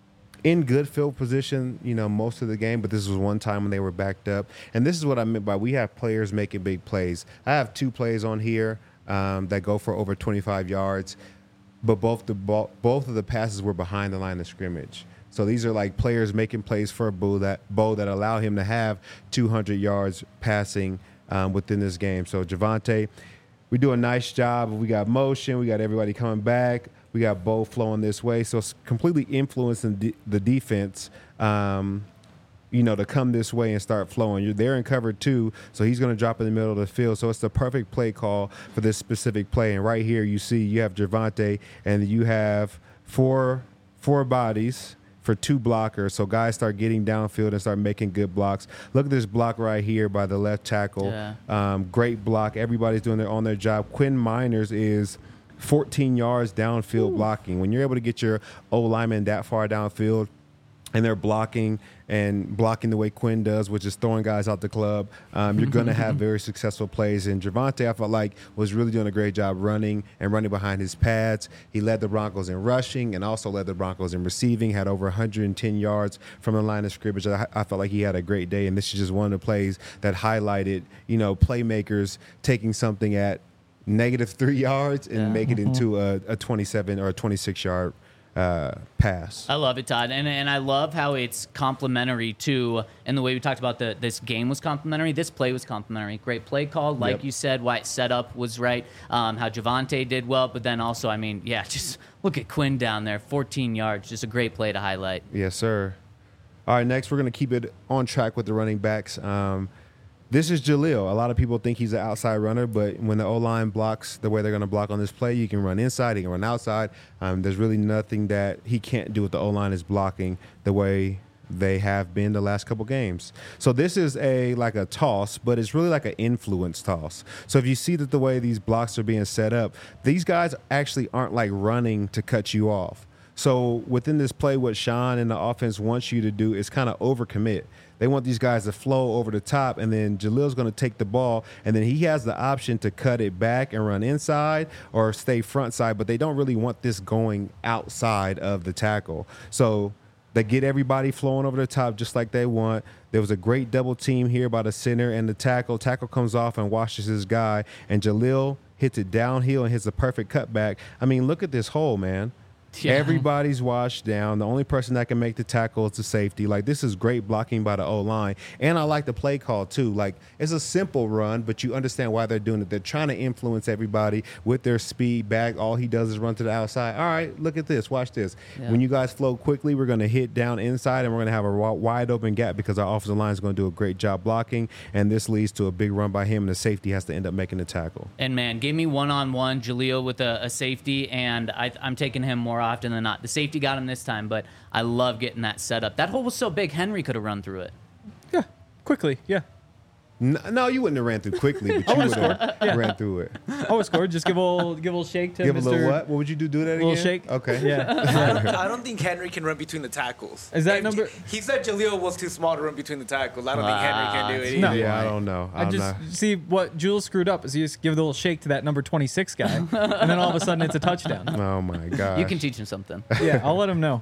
in good field position, you know, most of the game, but this was one time when they were backed up, and this is what I meant by we have players making big plays. I have two plays on here um, that go for over twenty-five yards, but both the ball, both of the passes were behind the line of scrimmage. So these are like players making plays for Bo that Bo that allow him to have two hundred yards passing um, within this game. So Javonte, we do a nice job. We got motion. We got everybody coming back. We got Bo flowing this way. So it's completely influencing de- the defense, um, you know, to come this way and start flowing. You're there in cover two, so he's going to drop in the middle of the field. So it's the perfect play call for this specific play. And right here you see you have Javonte, and you have four four bodies for two blockers. So guys start getting downfield and start making good blocks. Look at this block right here by the left tackle. Yeah. Um, great block. Everybody's doing their on their job. Quinn Miners is fourteen yards downfield blocking. When you're able to get your O lineman that far downfield and they're blocking and blocking the way Quinn does, which is throwing guys out the club, um, you're going to have very successful plays. And Javonte, I felt like, was really doing a great job running and running behind his pads. He led the Broncos in rushing and also led the Broncos in receiving, had over one hundred ten yards from the line of scrimmage. I, I felt like he had a great day, and this is just one of the plays that highlighted, you know, playmakers taking something at negative three yards and Yeah. make it into a, a twenty-seven or a twenty-six yard uh, pass. I love it, Todd, and and I love how it's complementary to, and the way we talked about the this game was complementary. This play was complementary. Great play call, like Yep. you said. Why it set up was right. Um, how Javonte did well, but then also, I mean, yeah, just look at Quinn down there, fourteen yards, just a great play to highlight. Yes, sir. All right, next we're going to keep it on track with the running backs. Um, this is Jaleel. A lot of people think he's an outside runner, but when the O-line blocks the way they're going to block on this play, you can run inside, he can run outside. Um, there's really nothing that he can't do with the O-line is blocking the way they have been the last couple games. So this is a like a toss, but it's really like an influence toss. So if you see that the way these blocks are being set up, these guys actually aren't like running to cut you off. So within this play, what Sean and the offense wants you to do is kind of overcommit. They want these guys to flow over the top, and then Jaleel's going to take the ball, and then he has the option to cut it back and run inside or stay front side, but they don't really want this going outside of the tackle. So they get everybody flowing over the top just like they want. There was a great double team here by the center and the tackle. Tackle comes off and washes his guy, and Jaleel hits it downhill and hits a perfect cutback. I mean, look at this hole, man. Yeah. Everybody's washed down. The only person that can make the tackle is the safety. Like, this is great blocking by the O-line. And I like the play call, too. Like, it's a simple run, but you understand why they're doing it. They're trying to influence everybody with their speed back. All he does is run to the outside. All right, look at this. Watch this. Yeah. When you guys flow quickly, we're going to hit down inside, and we're going to have a wide open gap because our offensive line is going to do a great job blocking, and this leads to a big run by him, and the safety has to end up making the tackle. And man, give me one-on-one Jaleel with a, a safety, and I, I'm taking him more often than not. The safety got him this time, but I love getting that set up. That hole was so big, Henry could have run through it. Yeah, quickly. Yeah. No, no, you wouldn't have ran through quickly, but you would have ran through it. Always scored. Just give a little, give a little shake to Give Mister a little what? What would you do? Do that again? Little shake. Okay. Yeah. I don't, I don't think Henry can run between the tackles. Is that If- number- He said Jaleel was too small to run between the tackles. I don't think Henry can do it No. either. Yeah, I don't know. I I'm just not. see what Jules screwed up is he just give a little shake to that number twenty-six guy, and then all of a sudden it's a touchdown. Oh my god. You can teach him something. Yeah, I'll let him know.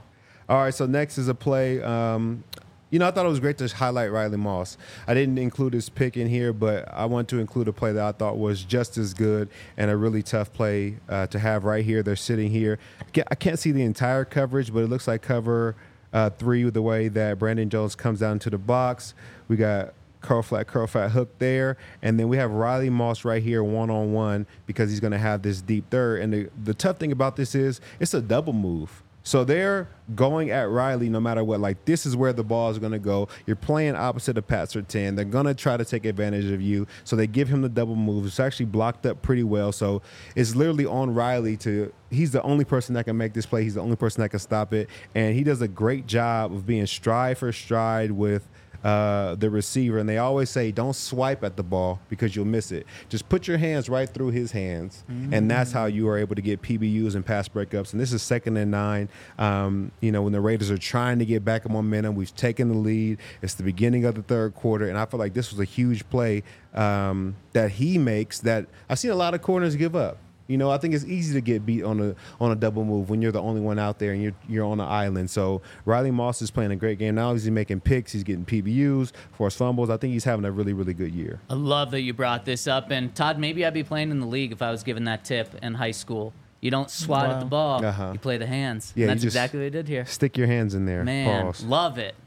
All right, so next is a play. Um, you know, I thought it was great to highlight Riley Moss. I didn't include his pick in here, but I want to include a play that I thought was just as good and a really tough play uh, to have right here. They're sitting here. I can't see the entire coverage, but it looks like cover uh, three with the way that Brandon Jones comes down to the box. We got curl flat, curl flat hook there. And then we have Riley Moss right here one-on-one because he's going to have this deep third. And the, the tough thing about this is it's a double move. So they're going at Riley no matter what. Like, this is where the ball is going to go. You're playing opposite of Pat Surtain. They're going to try to take advantage of you. So they give him the double move. It's actually blocked up pretty well. So it's literally on Riley to – he's the only person that can make this play. He's the only person that can stop it. And he does a great job of being stride for stride with – Uh, the receiver, and they always say don't swipe at the ball because you'll miss it. Just put your hands right through his hands, mm-hmm. and that's how you are able to get P B Us and pass breakups. And this is second and nine. Um, you know, when the Raiders are trying to get back in momentum, we've taken the lead. It's the beginning of the third quarter, and I feel like this was a huge play um, that he makes that I've seen a lot of corners give up. You know, I think it's easy to get beat on a on a double move when you're the only one out there and you're you're on an island. So Riley Moss is playing a great game. Not only is he making picks, he's getting P B Us, forced fumbles. I think he's having a really, really good year. I love that you brought this up. And Todd, maybe I'd be playing in the league if I was given that tip in high school. You don't swat Wow. at the ball. Uh-huh. You play the hands. Yeah, And you that's just exactly what I did here. Stick your hands in there. Man, Pause. love it.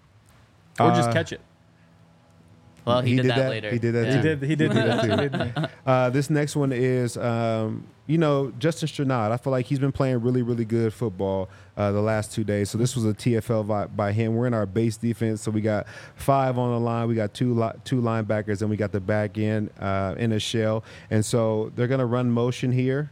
Or just Uh, catch it. Well, he, He did, did that, that? later. He did that Yeah. too. He did. He did do that too. didn't he? Uh, this next one is, um, you know, Justin Strnad. I feel like he's been playing really, really good football uh, the last two days. So this was a T F L by, by him. We're in our base defense, so we got five on the line. We got two li- two linebackers, and we got the back end uh, in a shell. And so they're going to run motion here,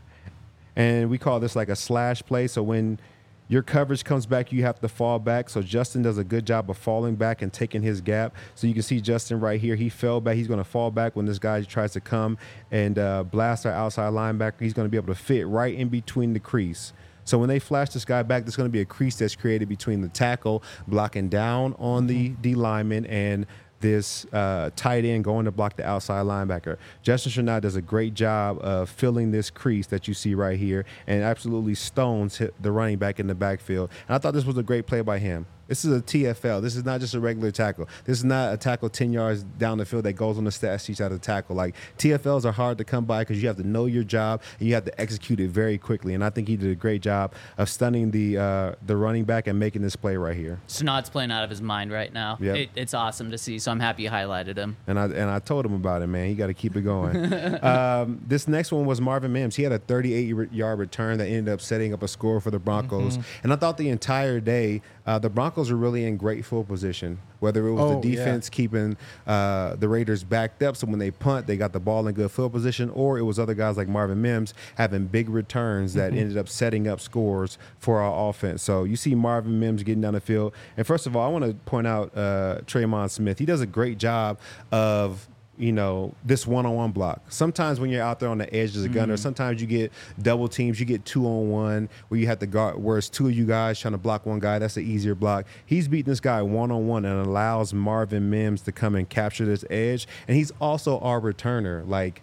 and we call this like a slash play. So when your coverage comes back, you have to fall back. So Justin does a good job of falling back and taking his gap. So you can see Justin right here. He fell back. He's going to fall back when this guy tries to come and uh, blast our outside linebacker. He's going to be able to fit right in between the crease. So when they flash this guy back, there's going to be a crease that's created between the tackle blocking down on the D lineman and this uh, tight end going to block the outside linebacker. Justin Strnad does a great job of filling this crease that you see right here and absolutely stones hit the running back in the backfield. And I thought this was a great play by him. This is a T F L. This is not just a regular tackle. This is not a tackle ten yards down the field that goes on the stat sheet out of the tackle. Like, T F Ls are hard to come by because you have to know your job and you have to execute it very quickly. And I think he did a great job of stunning the uh, the running back and making this play right here. Snod's playing out of his mind right now. Yep. It, it's awesome to see, so I'm happy you highlighted him. And I and I told him about it, man. He got to keep it going. um, this next one was Marvin Mims. He had a thirty-eight yard return that ended up setting up a score for the Broncos. Mm-hmm. And I thought the entire day uh, the Broncos were really in great field position, whether it was Oh, the defense yeah. keeping uh, the Raiders backed up. So when they punt, they got the ball in good field position, or it was other guys like Marvin Mims having big returns that Mm-hmm. ended up setting up scores for our offense. So you see Marvin Mims getting down the field. And first of all, I want to point out uh, Tremon Smith. He does a great job of, you know, this one-on-one block. Sometimes when you're out there on the edge as a gunner, mm. sometimes you get double teams. You get two-on-one where you have to guard, where it's two of you guys trying to block one guy. That's an easier block. He's beating this guy one-on-one and allows Marvin Mims to come and capture this edge. And he's also our returner. Like,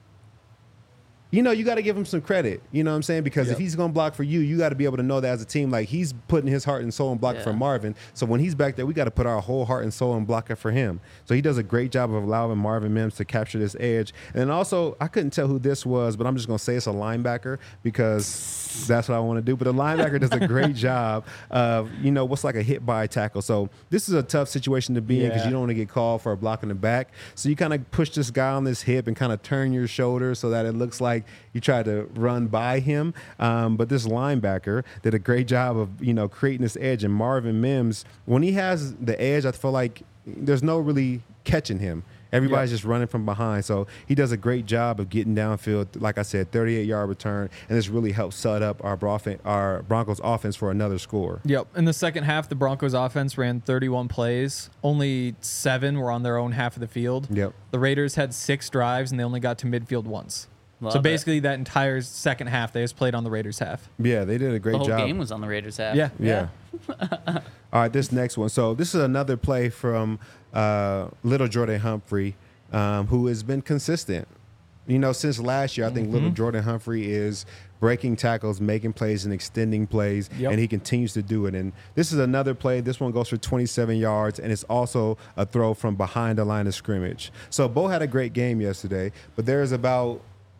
you know, you got to give him some credit. You know what I'm saying? Because Yep. if he's going to block for you, you got to be able to know that as a team. Like, he's putting his heart and soul in blocking Yeah. for Marvin. So when he's back there, we got to put our whole heart and soul in blocking for him. So he does a great job of allowing Marvin Mims to capture this edge. And then also, I couldn't tell who this was, but I'm just going to say it's a linebacker because that's what I want to do. But the linebacker does a great job of, you know, what's like a hit by tackle. So this is a tough situation to be in because Yeah. you don't want to get called for a block in the back. So you kind of push this guy on this hip and kind of turn your shoulder so that it looks like you try to run by him. Um, but this linebacker did a great job of, you know, creating this edge. And Marvin Mims, when he has the edge, I feel like there's no really catching him. Everybody's Yep. just running from behind. So he does a great job of getting downfield. Like I said, thirty-eight yard return. And this really helps set up our, Brof- our Broncos offense for another score. Yep. In the second half, the Broncos offense ran thirty-one plays. Only seven were on their own half of the field. Yep. The Raiders had six drives, and they only got to midfield once. Love so it. basically, that entire second half, they just played on the Raiders' half. Yeah, they did a great The whole job. game was on the Raiders' half. Yeah. Yeah. All right, this next one. So this is another play from uh, Little Jordan Humphrey, um, who has been consistent. you know, since last year, I think little Jordan Humphrey is breaking tackles, making plays, and extending plays, Yep. and he continues to do it. And this is another play. This one goes for twenty-seven yards, and it's also a throw from behind the line of scrimmage. So Bo had a great game yesterday, but there's about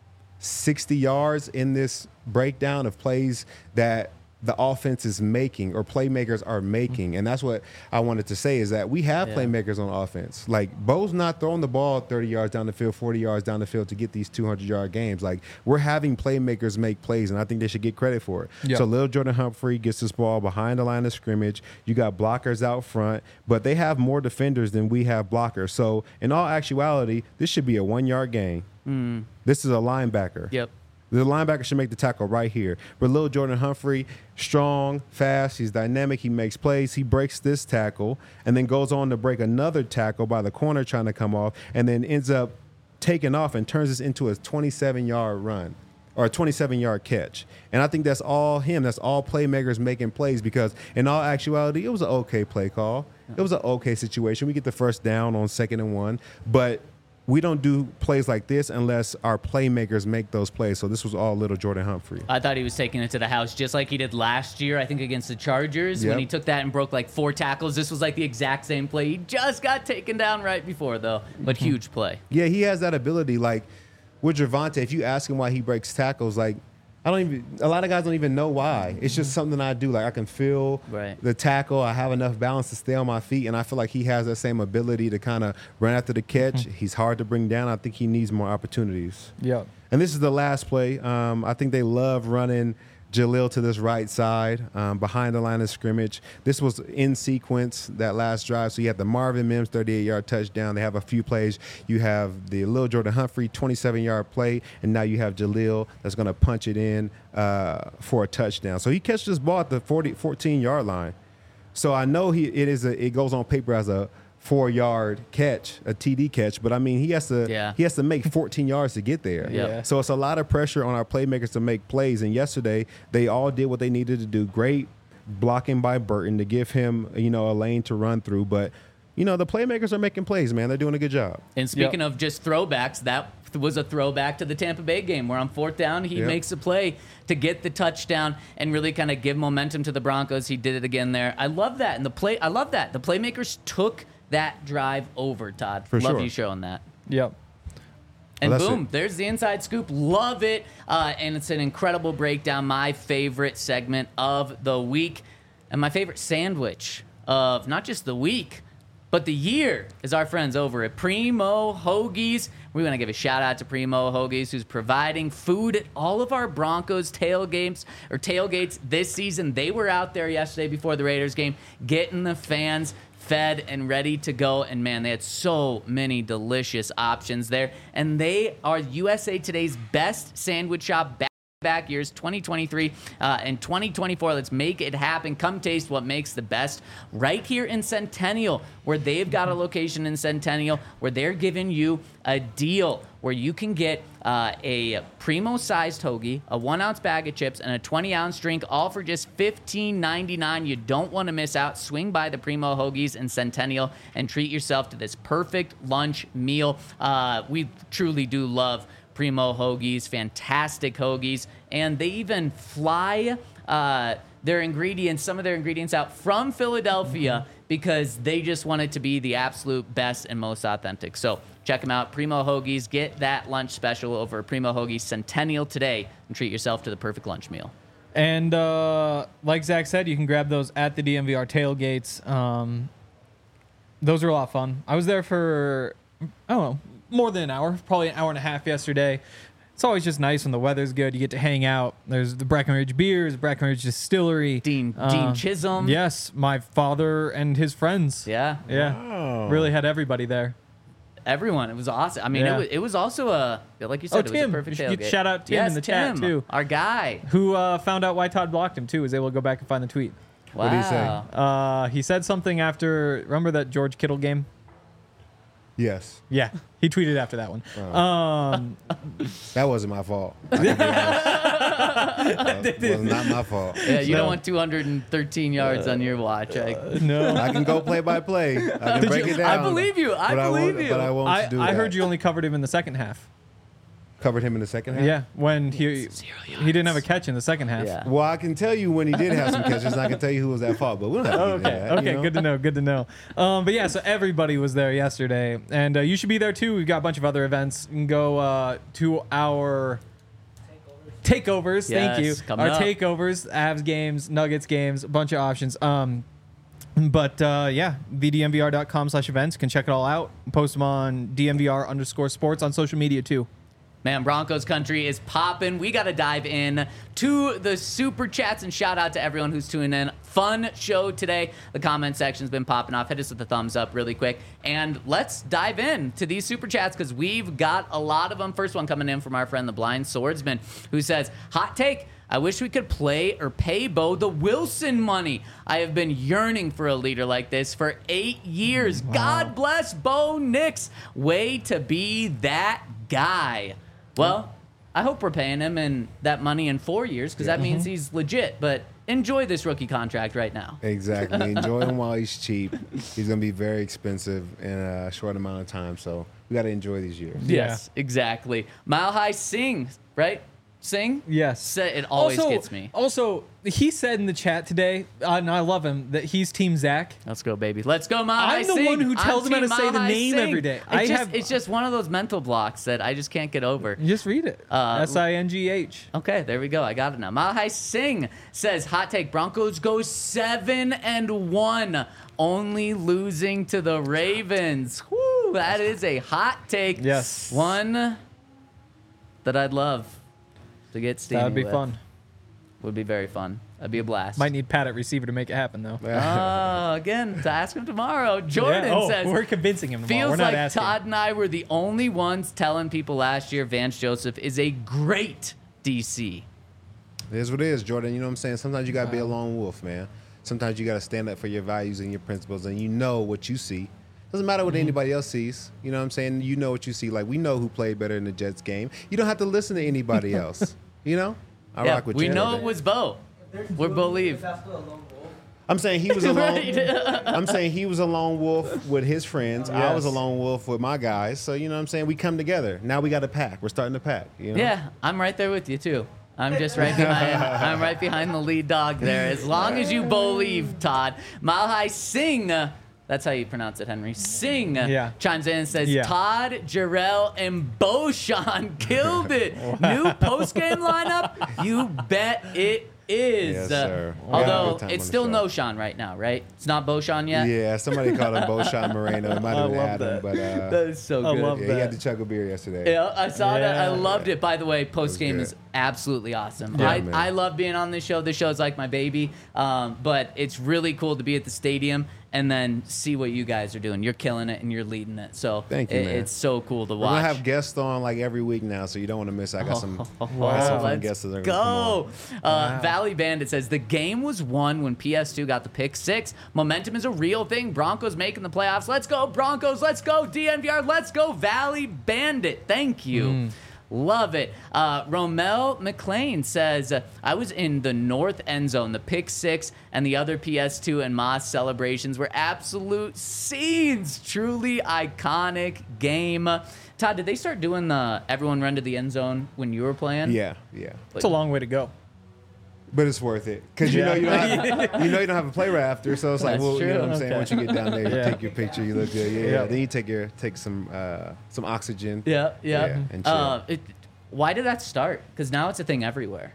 sixty yards in this breakdown of plays that the offense is making or playmakers are making. And that's what I wanted to say is that we have Yeah. playmakers on offense. Like, Bo's not throwing the ball thirty yards down the field, forty yards down the field to get these two hundred yard games. Like, we're having playmakers make plays, and I think they should get credit for it. Yeah. So little Jordan Humphrey gets this ball behind the line of scrimmage. You got blockers out front, but they have more defenders than we have blockers. So in all actuality, this should be a one yard gain. This is a linebacker. Yep. The linebacker should make the tackle right here. But little Jordan Humphrey, strong, fast, he's dynamic, he makes plays, he breaks this tackle, and then goes on to break another tackle by the corner trying to come off, and then ends up taking off and turns this into a twenty-seven yard run or a twenty-seven yard catch. And I think that's all him. That's all playmakers making plays, because in all actuality, it was an okay play call. It was an okay situation. We get the first down on second and one, but we don't do plays like this unless our playmakers make those plays. So this was all little Jordan Humphrey. I thought he was taking it to the house just like he did last year, I think, against the Chargers. Yep. When he took that and broke like four tackles. This was like the exact same play. He just got taken down right before, though. But huge play. Yeah, he has that ability. Like with Gervonta, if you ask him why he breaks tackles, like I don't even, a lot of guys don't even know why. It's just something I do. Like I can feel Right. the tackle. I have enough balance to stay on my feet. And I feel like he has that same ability to kind of run after the catch. He's hard to bring down. I think he needs more opportunities. Yeah. And this is the last play. Um, I think they love running Jaleel to this right side, um, behind the line of scrimmage. This was in sequence, that last drive. So you have the Marvin Mims thirty-eight yard touchdown. They have a few plays. You have the Lil Jordan Humphrey twenty-seven yard play, and now you have Jaleel that's going to punch it in uh, for a touchdown. So he catches this ball at the forty, fourteen yard line. So I know he it is a, it goes on paper as a four yard catch, a T D catch, but I mean he has to Yeah. he has to make fourteen yards to get there. Yeah. So it's a lot of pressure on our playmakers to make plays. And yesterday they all did what they needed to do. Great blocking by Burton to give him, you know, a lane to run through. But you know, the playmakers are making plays, man. They're doing a good job. And speaking of just throwbacks, that was a throwback to the Tampa Bay game where on fourth down, he Yep. makes a play to get the touchdown and really kind of give momentum to the Broncos. He did it again there. I love that. And the play, I love that. The playmakers took that drive over, Todd. For love sure. you showing that. Yep. And Well, that's boom, it. there's the inside scoop. Love it. Uh, and it's an incredible breakdown. My favorite segment of the week and my favorite sandwich of not just the week, but the year is our friends over at Primo Hoagies. We want to give a shout out to Primo Hoagies, who's providing food at all of our Broncos tailgates or tailgates this season. They were out there yesterday before the Raiders game, getting the fans fed and ready to go. And man, they had so many delicious options there. And they are U S A Today's best sandwich shop back back years twenty twenty-three uh, and twenty twenty-four. Let's make it happen. Come taste what makes the best right here in Centennial, where they've got a location in Centennial where they're giving you a deal where you can get uh, a primo sized hoagie, a one ounce bag of chips, and a twenty ounce drink, all for just fifteen ninety-nine. You don't want to miss out. Swing by the Primo Hoagies in Centennial and treat yourself to this perfect lunch meal. Uh, we truly do love Primo Hoagies, fantastic hoagies, and they even fly uh, their ingredients, some of their ingredients out from Philadelphia because they just want it to be the absolute best and most authentic. So check them out, Primo Hoagies. Get that lunch special over at Primo Hoagies Centennial today and treat yourself to the perfect lunch meal. And uh, like Zach said, you can grab those at the D M V R tailgates. Um, those are a lot of fun. I was there for, I don't know, more than an hour, probably an hour and a half yesterday. It's always just nice when the weather's good. You get to hang out. There's the Breckenridge Beers, Breckenridge Distillery. Dean Uh, Dean Chisholm. Yes, my father and his friends. Yeah. Yeah. Really had everybody there. Everyone. It was awesome. I mean, Yeah. it, was, it was also a, like you Oh, said, it was Tim. a perfect You should tailgate. shout out Tim yes, in the Tim, chat, too. Our guy. Who uh, found out why Todd blocked him, too, was able to go back and find the tweet. Wow. What did he say? Uh, he said something after, remember that George Kittle game? Yes. Yeah, he tweeted after that one. Um, That wasn't my fault. I can be honest. That was not my fault. Yeah, you No. don't want two hundred thirteen yards on your watch. I, no, I can go play by play. I can Did break you- it down. I believe you. I but believe won't, you. But I won't I, do I that. heard you only covered him in the second half. Covered him in the second half? Yeah, when he he didn't have a catch in the second half. Yeah. Well, I can tell you when he did have some catches, and I can tell you who was at fault, but we don't have to get into Okay, that. okay, you know? good to know, good to know. Um, but yeah, so everybody was there yesterday, and uh, you should be there too. We've got a bunch of other events. You can go uh, to our takeovers. Thank you. Yes, coming Our up. takeovers, Avs games, Nuggets games, a bunch of options. Um, but uh, yeah, v d m v r dot com slash events. Can check it all out. Post them on D M V R underscore sports on social media too. Man, Broncos country is popping. We got to dive in to the super chats and shout out to everyone who's tuning in. Fun show today. The comment section's been popping off. Hit us with the thumbs up really quick. And let's dive in to these super chats because we've got a lot of them. First one coming in from our friend the Blind Swordsman, who says, hot take. I wish we could play or pay Bo the Wilson money. I have been yearning for a leader like this for eight years. God bless Bo Nix. Way to be that guy. Well, I hope we're paying him in that money in four years because that means he's legit. But enjoy this rookie contract right now. Exactly. Enjoy him while he's cheap. He's going to be very expensive in a short amount of time, so we got to enjoy these years. Yes, exactly. Mile High Sing, right? Sing? Yes. Say- It always also, gets me. Also, he said in the chat today, uh, and I love him, that he's Team Zach. Let's go, baby. Let's go, Mile High I'm the Sing. one who tells I'm him how to Team say Mile the High name Sing. every day. It's, I just, have- it's just one of those mental blocks that I just can't get over. Just read it. Uh, S I N G H. Okay, there we go. I got it now. Mile High Sing says, hot take, Broncos go seven and one, only losing to the Ravens. Whoo, that is a hot take. Yes. One that I'd love to get steamy That would be with. fun. Would be very fun. That'd be a blast. Might need Pat at receiver to make it happen, though. Oh, again, to ask him tomorrow. Jordan Yeah. Oh, says, we're convincing him tomorrow. feels We're not like asking. Todd and I were the only ones telling people last year Vance Joseph is a great D C. It is what it is, Jordan. You know what I'm saying? Sometimes you got to be a lone wolf, man. Sometimes you got to stand up for your values and your principles, and you know what you see. Doesn't matter what anybody else sees. You know what I'm saying? You know what you see. Like, we know who played better in the Jets game. You don't have to listen to anybody else. You know? I Yeah, rock with we you. know it was Bo. We believe. I'm saying he was a lone. Right. I'm saying he was a lone wolf with his friends. I was a Yes. lone wolf with my guys. So you know what I'm saying? We come together. Now we got a pack. We're starting to pack. You know? Yeah, I'm right there with you too. I'm just right behind. I'm right behind the lead dog there. As long as you believe, Todd. Mile High Sing. uh, That's how you pronounce it, Henry. Sing. uh, Yeah. Chimes in and says, Yeah. Todd, Jarrell, and Boshan killed it. New post game lineup. You bet it is. Yes, Uh, sir. We had a although good time it's on the still show. no Sean right now, right? It's not Boshan yet. Yeah, somebody called him Boshan Moreno. It might I have been love Adam, that. but uh, That is so I good. love yeah, he that. had to chug a beer yesterday. Yeah, I saw that. I Yeah. loved it. By the way, post game good. is absolutely awesome. Yeah, I, man. I love being on this show. This show is like my baby. Um, but it's really cool to be at the stadium and then see what you guys are doing. You're killing it and you're leading it. So Thank you, it- man. it's so cool to We're watch. gonna have guests on like every week now, so you don't want to miss. I got some, I got some fun Let's guests that are gonna come go. Uh, Valley Bandit says the game was won when P S two got the pick six. Momentum is a real thing. Broncos making the playoffs. Let's go Broncos. Let's go D N V R. Let's go Valley Bandit. Thank you. Love it. Uh, Romel McLean says, uh, I was in the north end zone. The pick six and the other P S two and Moss celebrations were absolute scenes. Truly iconic game. Todd, did they start doing the everyone run to the end zone when you were playing? on. Yeah, yeah. It's a long way to go. But it's worth it because you know you don't have, you know you don't have a play right after, so it's like, That's well, you know true. what I'm saying. Okay. Once you get down there, you Yeah. take your picture, you look good, yeah. Yeah. Then you take your take some uh, some oxygen. Yeah, yeah. Yeah, and chill. uh, it, why did that start? Because now it's a thing everywhere.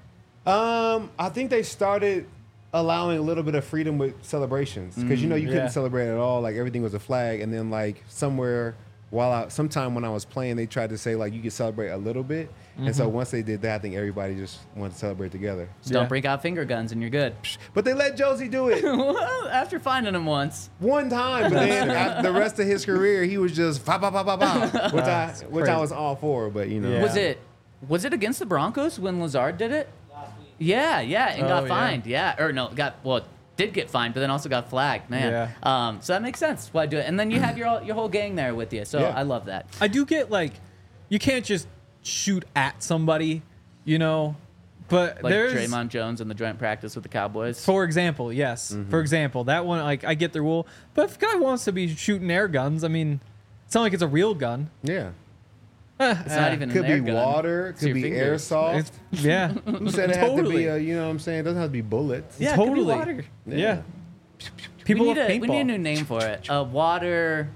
Um, I think they started allowing a little bit of freedom with celebrations because you know you couldn't yeah. celebrate at all. Like everything was a flag, and then like somewhere while I sometime when I was playing, they tried to say like you could celebrate a little bit. And so once they did that, I think everybody just wanted to celebrate together. Just don't Yeah. break out finger guns and you're good. But they let Josie do it Well, after finding him once. one time, but then at the rest of his career, he was just fa ba ba ba ba, which I which I crazy. was all for. But you know, Yeah. Was it was it against the Broncos when Lazard did it? Yeah, yeah, and Oh, got yeah. fined. Yeah, or no, got well, did get fined, but then also got flagged. Man, Yeah. um, so that makes sense why do it. And then you have your your whole gang there with you. So Yeah. I love that. I do get like, you can't just shoot at somebody, you know, but Like there's Draymond Jones in the joint practice with the Cowboys. For example, yes. Mm-hmm. For example, that one, like, I get the rule. But if a guy wants to be shooting air guns, I mean, it's not like it's a real gun. yeah. It's not even Could an air be gun. water. It's Could your be fingers. airsoft. It's, yeah. Who said it had to Totally. be a, you know what I'm saying? It doesn't have to be bullets. Yeah, it could be totally. water. Yeah. We People need, love a, we need a paintball. new name for it. A water.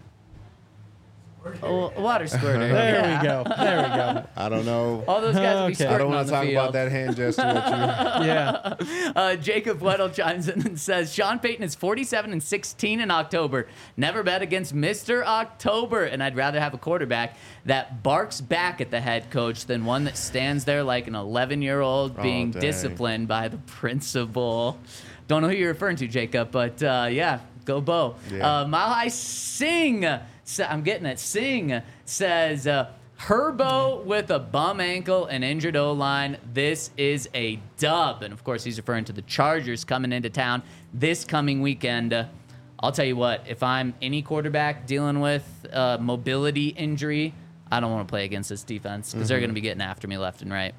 Oh, a water squirter. There Yeah. we go. There we go. I don't know. All those guys will be Okay. I squirting don't on want the to talk field. about that hand gesture with you. Yeah. Uh, Jacob Weddle chimes in and says, Sean Payton is forty-seven and sixteen in October. Never bet against Mister October. And I'd rather have a quarterback that barks back at the head coach than one that stands there like an eleven-year-old being dang. disciplined by the principal. Don't know who you're referring to, Jacob, but uh, yeah, go Bo. Yeah. Uh, Mile High Sing, sa- I'm getting it, Sing says, uh, Herbo with a bum ankle and injured O-line. This is a dub. And, of course, he's referring to the Chargers coming into town this coming weekend. Uh, I'll tell you what, if I'm any quarterback dealing with uh, mobility injury, I don't want to play against this defense because they're going to be getting after me left and right.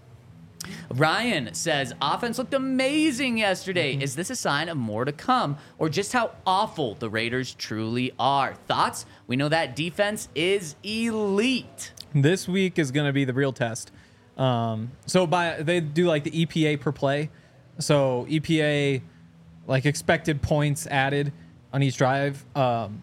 Ryan says, offense looked amazing yesterday. Mm-hmm. Is this a sign of more to come or just how awful the Raiders truly are? Thoughts? We know that defense is elite. This week is going to be the real test. Um, so by they do like the E P A per play. So E P A, like expected points added on each drive. Um,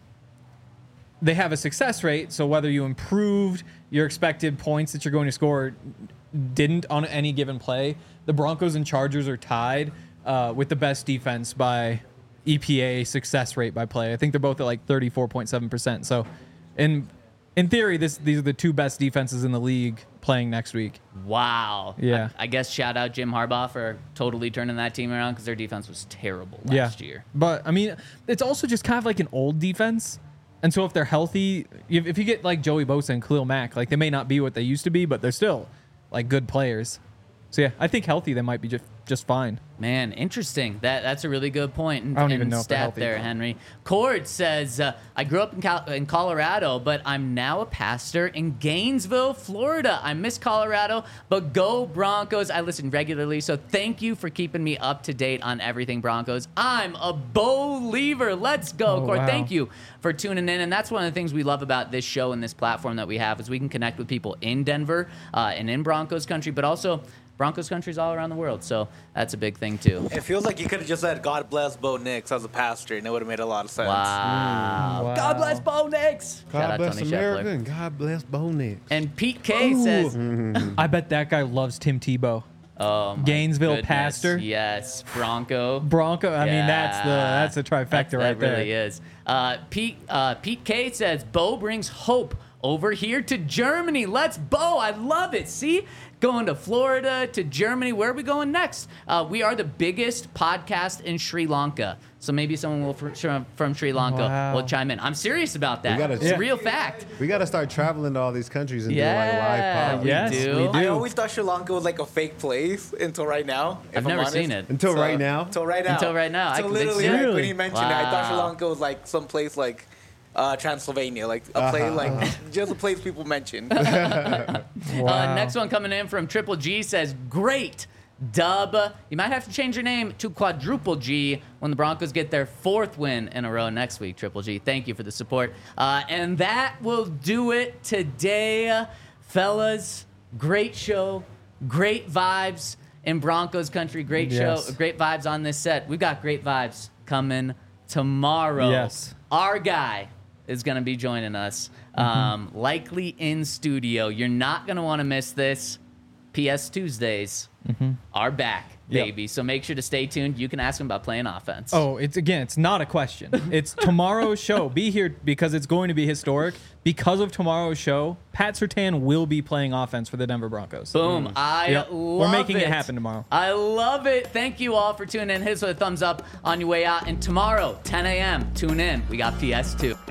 they have a success rate. So whether you improved your expected points that you're going to score didn't on any given play, the Broncos and Chargers are tied uh, with the best defense by E P A success rate by play. I think they're both at like thirty-four point seven percent. So in in theory, this these are the two best defenses in the league playing next week. Wow. Yeah. I, I guess shout out Jim Harbaugh for totally turning that team around because their defense was terrible last yeah. year. But I mean, it's also just kind of like an old defense. And so if they're healthy, if, if you get like Joey Bosa and Khalil Mack, like they may not be what they used to be, but they're still like good players. So yeah, I think healthy they might be just just fine. Man, interesting. That that's a really good point. And, I don't even and know if they're stat healthy. there, Henry. Cord says, uh, I grew up in, Cal- in Colorado, but I'm now a pastor in Gainesville, Florida. I miss Colorado, but go Broncos. I listen regularly, so thank you for keeping me up to date on everything Broncos. I'm a Believer. Let's go, Oh, Cord. wow. Thank you for tuning in. And that's one of the things we love about this show and this platform that we have is we can connect with people in Denver uh, and in Broncos country, but also Broncos countries all around the world. So that's a big thing, too. It feels like you could have just said, God bless Bo Nix as a pastor, and it would have made a lot of sense. Wow. Mm, wow. God bless Bo Nix. Shout God out bless Tony America Scheffler. and God bless Bo Nix. And Pete K says, I bet that guy loves Tim Tebow. oh, my Gainesville goodness. pastor. Yes, Bronco. Bronco. I mean, that's the Yeah. that's a trifecta That- right that there. really is. Uh, Pete uh, Pete K says, Bo brings hope over here to Germany. Let's Bo. I love it. See? Going to Florida, to Germany. Where are we going next? Uh, we are the biggest podcast in Sri Lanka. So maybe someone will fr- from, from Sri Lanka Wow. will chime in. I'm serious about that. gotta- It's Yeah. a real fact. We got to start traveling to all these countries and Yeah, do like live pod. we Yes, do. we do. I always thought Sri Lanka was like a fake place until right now. if I've I'm never honest. seen it. Until right now. Until right now. Until right now. I So can literally, see it. like, when Really? he mentioned it, I thought Sri Wow. Lanka was like some place like uh, Transylvania, like a place, like just a place people mention. Uh, Wow. next one coming in from Triple G says, great dub. You might have to change your name to Quadruple G when the Broncos get their fourth win in a row next week, Triple G. Thank you for the support. Uh, and that will do it today, fellas. Great show. Great vibes in Broncos country. Great Yes. show. Great vibes on this set. We've got great vibes coming tomorrow. Yes. Our guy is going to be joining us, um, likely in studio. You're not going to want to miss this. P S Tuesdays are back, Yep. baby. So make sure to stay tuned. You can ask him about playing offense. Oh, it's again, it's not a question. It's tomorrow's show. Be here because it's going to be historic. Because of tomorrow's show, Pat Surtain will be playing offense for the Denver Broncos. Boom. I Yep. love We're making it it happen tomorrow. I love it. Thank you all for tuning in. Hit us with a thumbs up on your way out. And tomorrow, ten a.m., tune in. We got P S two.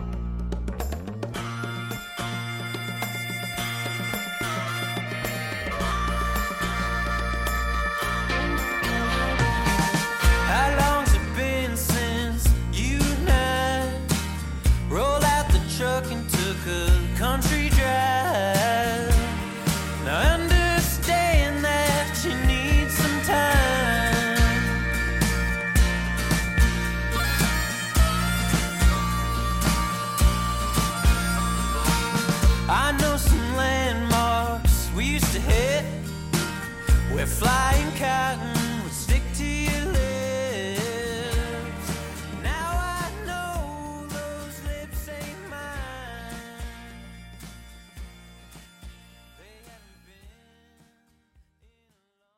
How long's it been since you and I rolled out the truck and took a country drive? Now I understand that you need some time. We're flying cotton